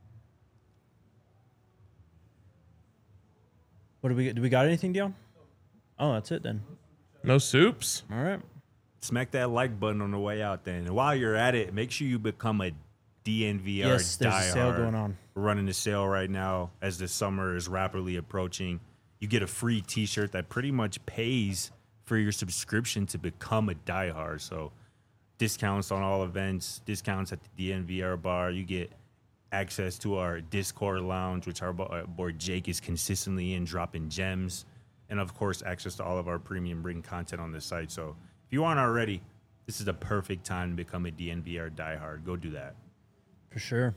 What do we get? Do we got anything, Dion? Oh, that's it then. No soups. All right. Smack that like button on the way out then. And while you're at it, make sure you become a DNVR Yes, there's a diehard. sale going on. We're running a sale right now as the summer is rapidly approaching. You get a free t-shirt that pretty much pays for your subscription to become a diehard. So discounts on all events, discounts at the DNVR bar. You get access to our Discord lounge, which our boy Jake is consistently in, dropping gems. And, of course, access to all of our premium ring content on the site. So if you aren't already, this is the perfect time to become a DNVR diehard. Go do that. For sure.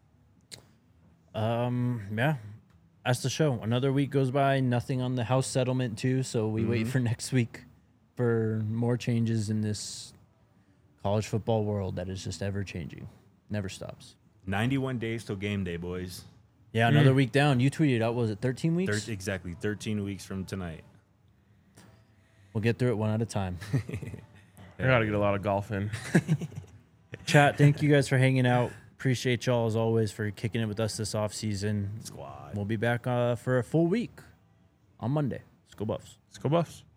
Yeah. That's the show. Another week goes by, nothing on the house settlement too, so we wait for next week for more changes in this college football world that is just ever changing. Never stops. 91 days till game day, boys. Yeah, another week down. You tweeted out, was it 13 weeks? Exactly 13 weeks from tonight. We'll get through it one at a time. I gotta get a lot of golf in. Chat, thank you guys for hanging out. Appreciate y'all as always for kicking it with us this off season. Squad. We'll be back for a full week on Monday. Let's go Buffs. Let's go Buffs.